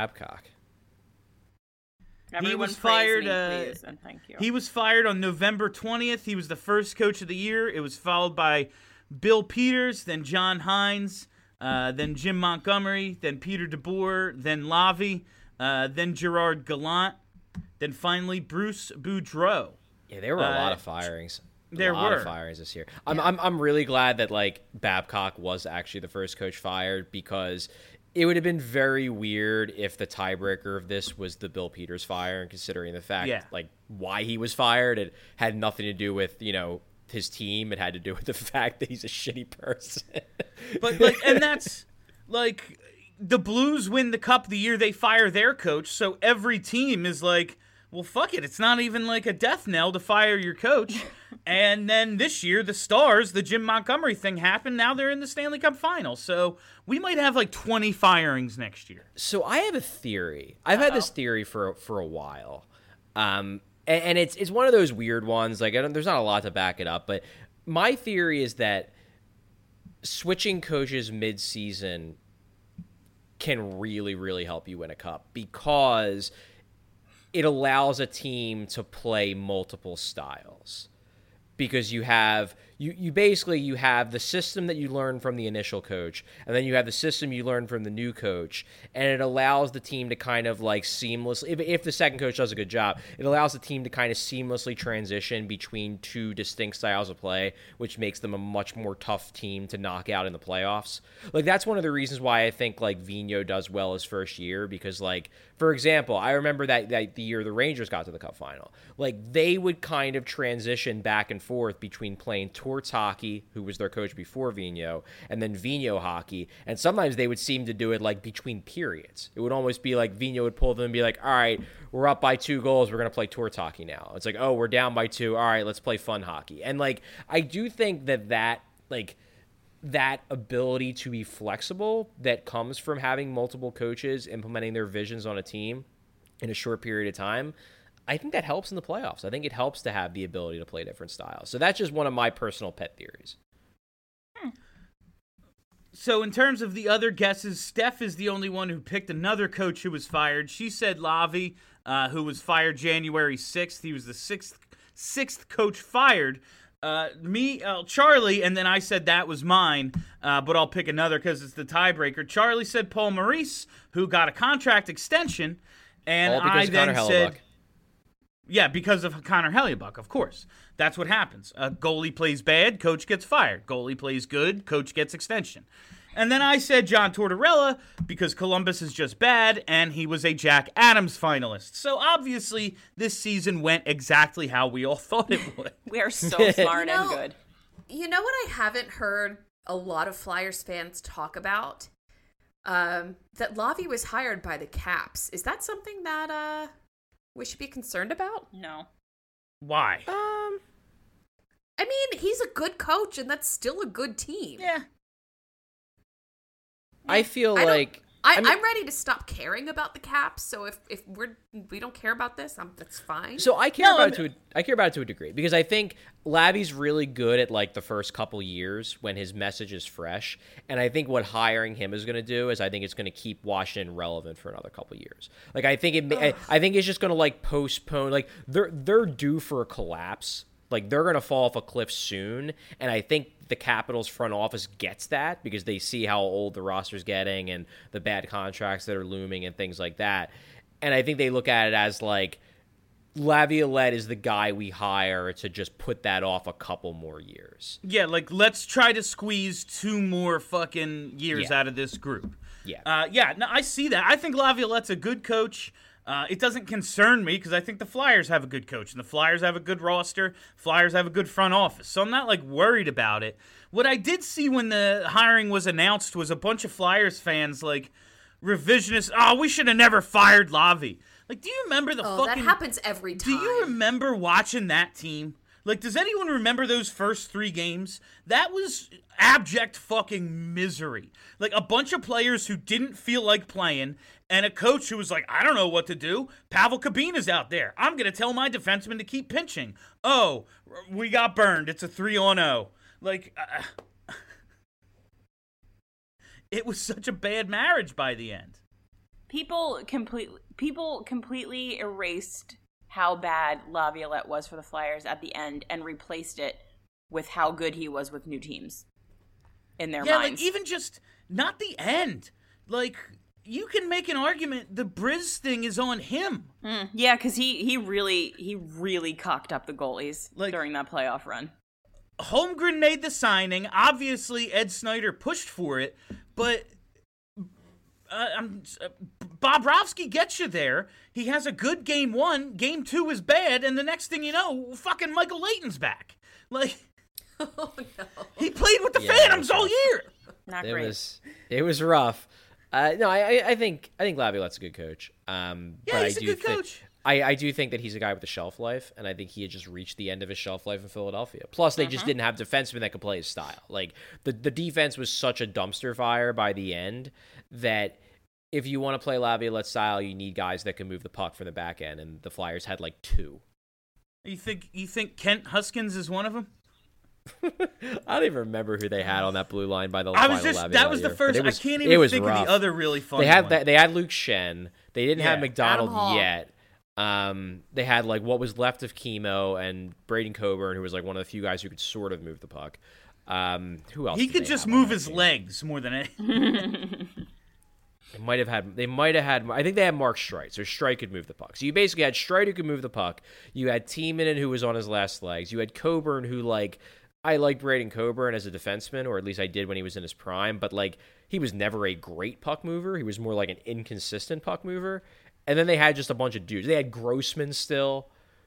Everyone was praise fired, me, please, and thank you. He was fired on November 20th. He was the first coach of the year. It was followed by Bill Peters, then John Hines, then Jim Montgomery, then Peter DeBoer, then Lavi, then Gerard Gallant, then finally Bruce Boudreau. Yeah, there were a lot of firings. There a lot were of firings this year. I'm really glad that Babcock was actually the first coach fired, because it would have been very weird if the tiebreaker of this was the Bill Peters fire, and considering the fact why he was fired, it had nothing to do with his team. It had to do with the fact that he's a shitty person. But and that's the Blues win the cup the year they fire their coach, so every team is like, well, fuck it. It's not even like a death knell to fire your coach. And then this year, the Stars, the Jim Montgomery thing happened. Now they're in the Stanley Cup Final. So we might have 20 firings next year. So I have a theory. I've had this theory for a while. And it's one of those weird ones. There's not a lot to back it up. But my theory is that switching coaches mid-season can really, really help you win a cup, because it allows a team to play multiple styles, because you have you basically have the system that you learn from the initial coach, and then you have the system you learn from the new coach, and it allows the team to kind of seamlessly, if the second coach does a good job, it allows the team to kind of seamlessly transition between two distinct styles of play, which makes them a much more tough team to knock out in the playoffs. That's one of the reasons why I think Vigneault does well his first year, because for example, I remember that the year the Rangers got to the Cup Final, they would kind of transition back and forth between playing Torts hockey, who was their coach before Vigneault, and then Vigneault hockey, and sometimes they would seem to do it between periods. It would almost be Vigneault would pull them and be like, all right, we're up by 2 goals, we're going to play Torts hockey now. It's oh, we're down by 2, all right, let's play fun hockey. And I do think that ability to be flexible that comes from having multiple coaches implementing their visions on a team in a short period of time, I think that helps in the playoffs. I think it helps to have the ability to play different styles. So that's just one of my personal pet theories. So in terms of the other guesses, Steph is the only one who picked another coach who was fired. She said Lavi, who was fired January 6th. He was the sixth coach fired. Charlie, and then I said that was mine, but I'll pick another because it's the tiebreaker. Charlie said Paul Maurice, who got a contract extension, and I then said, yeah, because of Connor Hellebuyck, of course. That's what happens. A goalie plays bad, coach gets fired. Goalie plays good, coach gets extension. And then I said John Tortorella because Columbus is just bad, and he was a Jack Adams finalist. So obviously, this season went exactly how we all thought it would. We are so smart You know- and good. You know what I haven't heard a lot of Flyers fans talk about? That Lavi was hired by the Caps. Is that something that we should be concerned about? No. Why? I mean, he's a good coach, and that's still a good team. Yeah. I feel I don't- like I'm ready to stop caring about the Caps. So if we don't care about this, that's fine. So I care about it to a degree because I think Labby's really good at like the first couple years when his message is fresh, and I think what hiring him is going to do is I think it's going to keep Washington relevant for another couple years. Like I think I think it's just going to like postpone. Like they're due for a collapse. Like they're going to fall off a cliff soon, and I think the Capitals front office gets that because they see how old the roster's getting and the bad contracts that are looming and things like that. And I think they look at it as like Laviolette is the guy we hire to just put that off a couple more years. Yeah, like let's try to squeeze 2 more fucking years out of this group. Yeah. No, I see that. I think Laviolette's a good coach. It doesn't concern me because I think the Flyers have a good coach and the Flyers have a good roster. Flyers have a good front office, so I'm not like worried about it. What I did see when the hiring was announced was a bunch of Flyers fans like revisionist. Oh, we should have never fired Lavi. Like, do you remember the fucking? That happens every time. Do you remember watching that team? Like, does anyone remember those first 3 games? That was abject fucking misery. Like, a bunch of players who didn't feel like playing, and a coach who was like, I don't know what to do. Pavel Kabina's out there. I'm going to tell my defenseman to keep pinching. Oh, we got burned. It's a 3-on-0. Like, it was such a bad marriage by the end. People completely erased how bad Laviolette was for the Flyers at the end and replaced it with how good he was with new teams in their minds. Like even just not the end. Like you can make an argument the Briz thing is on him. Yeah, because he really cocked up the goalies during that playoff run. Holmgren made the signing. Obviously, Ed Snyder pushed for it, but Bobrovsky gets you there. He has a good game 1. Game 2 is bad, and the next thing you know, fucking Michael Layton's back. Like, oh no, he played with the Phantoms all year. Not great. It was rough. No, I think Laviolette's a good coach. Yeah, but he's a good coach. I do think that he's a guy with a shelf life, and I think he had just reached the end of his shelf life in Philadelphia. Plus, they just didn't have defensemen that could play his style. Like, the defense was such a dumpster fire by the end that if you want to play Laviolette style, you need guys that can move the puck from the back end, and the Flyers had, like, 2. You think Kent Huskins is one of them? I don't even remember who they had on that blue line by the That final was the year, first. but I can't even think rough. of the other really fun They had one. they had Luke Shen. They didn't have McDonald Adam Hall. yet. They had like what was left of Chemo and Braden Coburn, who was like one of the few guys who could sort of move the puck. Who else? He did could they just have on move that his team? legs more than anything. They might have had. I think they had Mark Streit, so Streit could move the puck. So you basically had Streit who could move the puck. You had Tiemann who was on his last legs. You had Coburn who like. I liked Braden Coburn as a defenseman, or at least I did when he was in his prime, but like he was never a great puck mover. He was more like an inconsistent puck mover. And then they had just a bunch of dudes. They had Grossman still.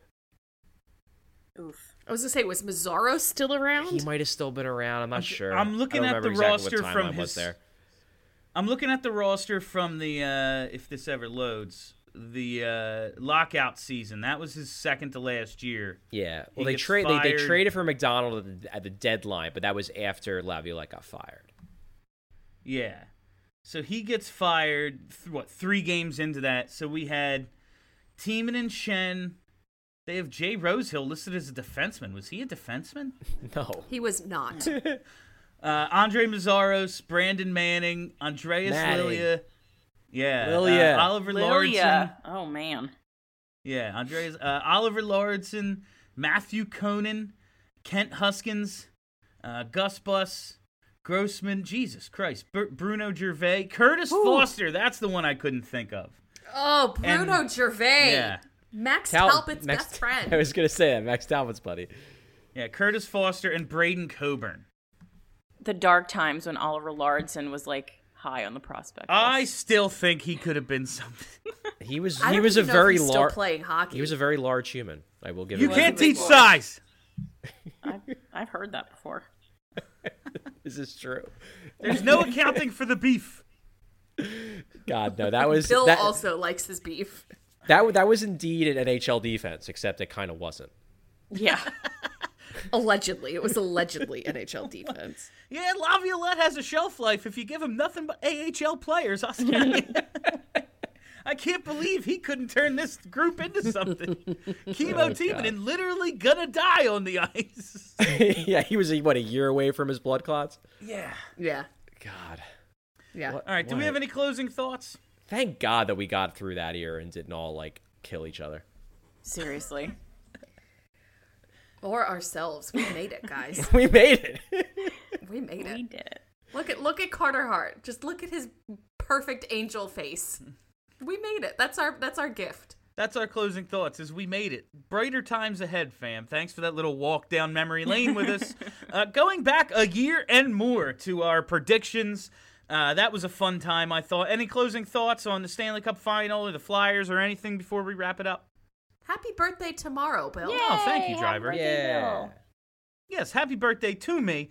Oof. I was gonna say, was Mazzaro still around? He might have still been around. I'm not sure. I'm looking I don't at the remember roster exactly what from timeline was his. there. I'm looking at the roster from the if this ever loads, the lockout season. That was his second to last year. Yeah. He Well, they gets they fired. traded for McDonald at the deadline, but that was after Laviolette got fired. Yeah. So he gets fired, 3 games into that. So we had Tiemann and Shen. They have Jay Rosehill listed as a defenseman. Was he a defenseman? No. He was not. Andre Mazzaros, Brandon Manning, Andreas Manning. Lilia. Yeah. Lilia. Oliver Lauritsen. Lilia. Oh man. Yeah, Andreas. Oliver Lauritsen, Matthew Conan, Kent Huskins, Gus Bus, Grossman, Jesus Christ, Bruno Gervais, Curtis Foster. That's the one I couldn't think of. Oh, Bruno Gervais. Yeah. Max Talbot's best friend. I was going to say that. Max Talbot's buddy. Yeah, Curtis Foster and Braden Coburn. the dark times when Oliver Lardson was like high on the prospect I list. still think he could have been something. He was I he don't was a even know if very he's still large playing hockey. He was a very large human. I will give You him can't that. teach size. I've heard that before. This is true. There's no accounting for the beef. God, no, that was Bill that, also likes his beef. that was indeed an NHL defense, except it kind of wasn't. Yeah. Allegedly. It was allegedly NHL defense. Yeah, Laviolette has a shelf life if you give him nothing but AHL players. I can't believe he couldn't turn this group into something. Chemo Timonen literally gonna die on the ice. Yeah, he was a year away from his blood clots. Yeah. Yeah. God. Yeah. What- All right, do we what? have any closing thoughts? Thank God that we got through that year and didn't all like kill each other. Seriously. Or ourselves. We made it, guys. We made it. We made We it. did it. Look at Carter Hart. Just look at his perfect angel face. We made it. That's our gift. That's our closing thoughts, is we made it. Brighter times ahead, fam. Thanks for that little walk down memory lane with us. Going back a year and more to our predictions. That was a fun time, I thought. Any closing thoughts on the Stanley Cup Final or the Flyers or anything before we wrap it up? Happy birthday tomorrow, Bill. Oh, thank you, driver. Yeah. Yes, happy birthday to me.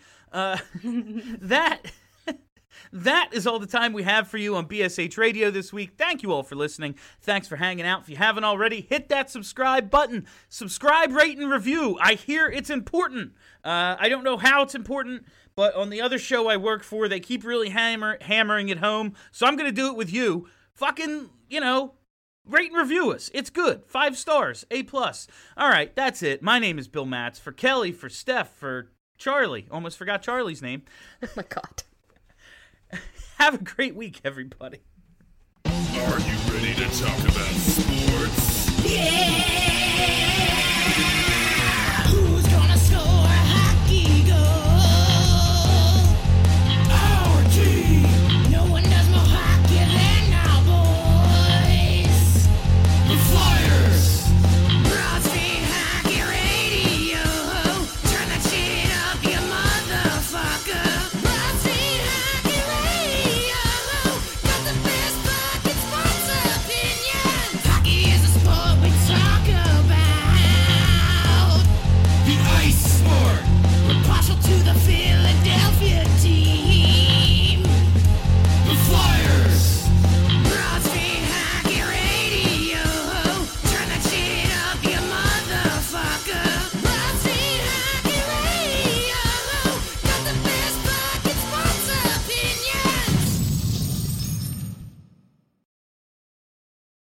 That is all the time we have for you on BSH Radio this week. Thank you all for listening. Thanks for hanging out. If you haven't already, hit that subscribe button. Subscribe, rate, and review. I hear it's important. I don't know how it's important, but on the other show I work for, they keep really hammering it home. So I'm going to do it with you. Fucking, rate and review us. It's good. 5 stars. A+. All right, that's it. My name is Bill Matz. For Kelly, for Steph, for Charlie. Almost forgot Charlie's name. Oh my God. Have a great week, everybody. Are you ready to talk about sports? Yeah!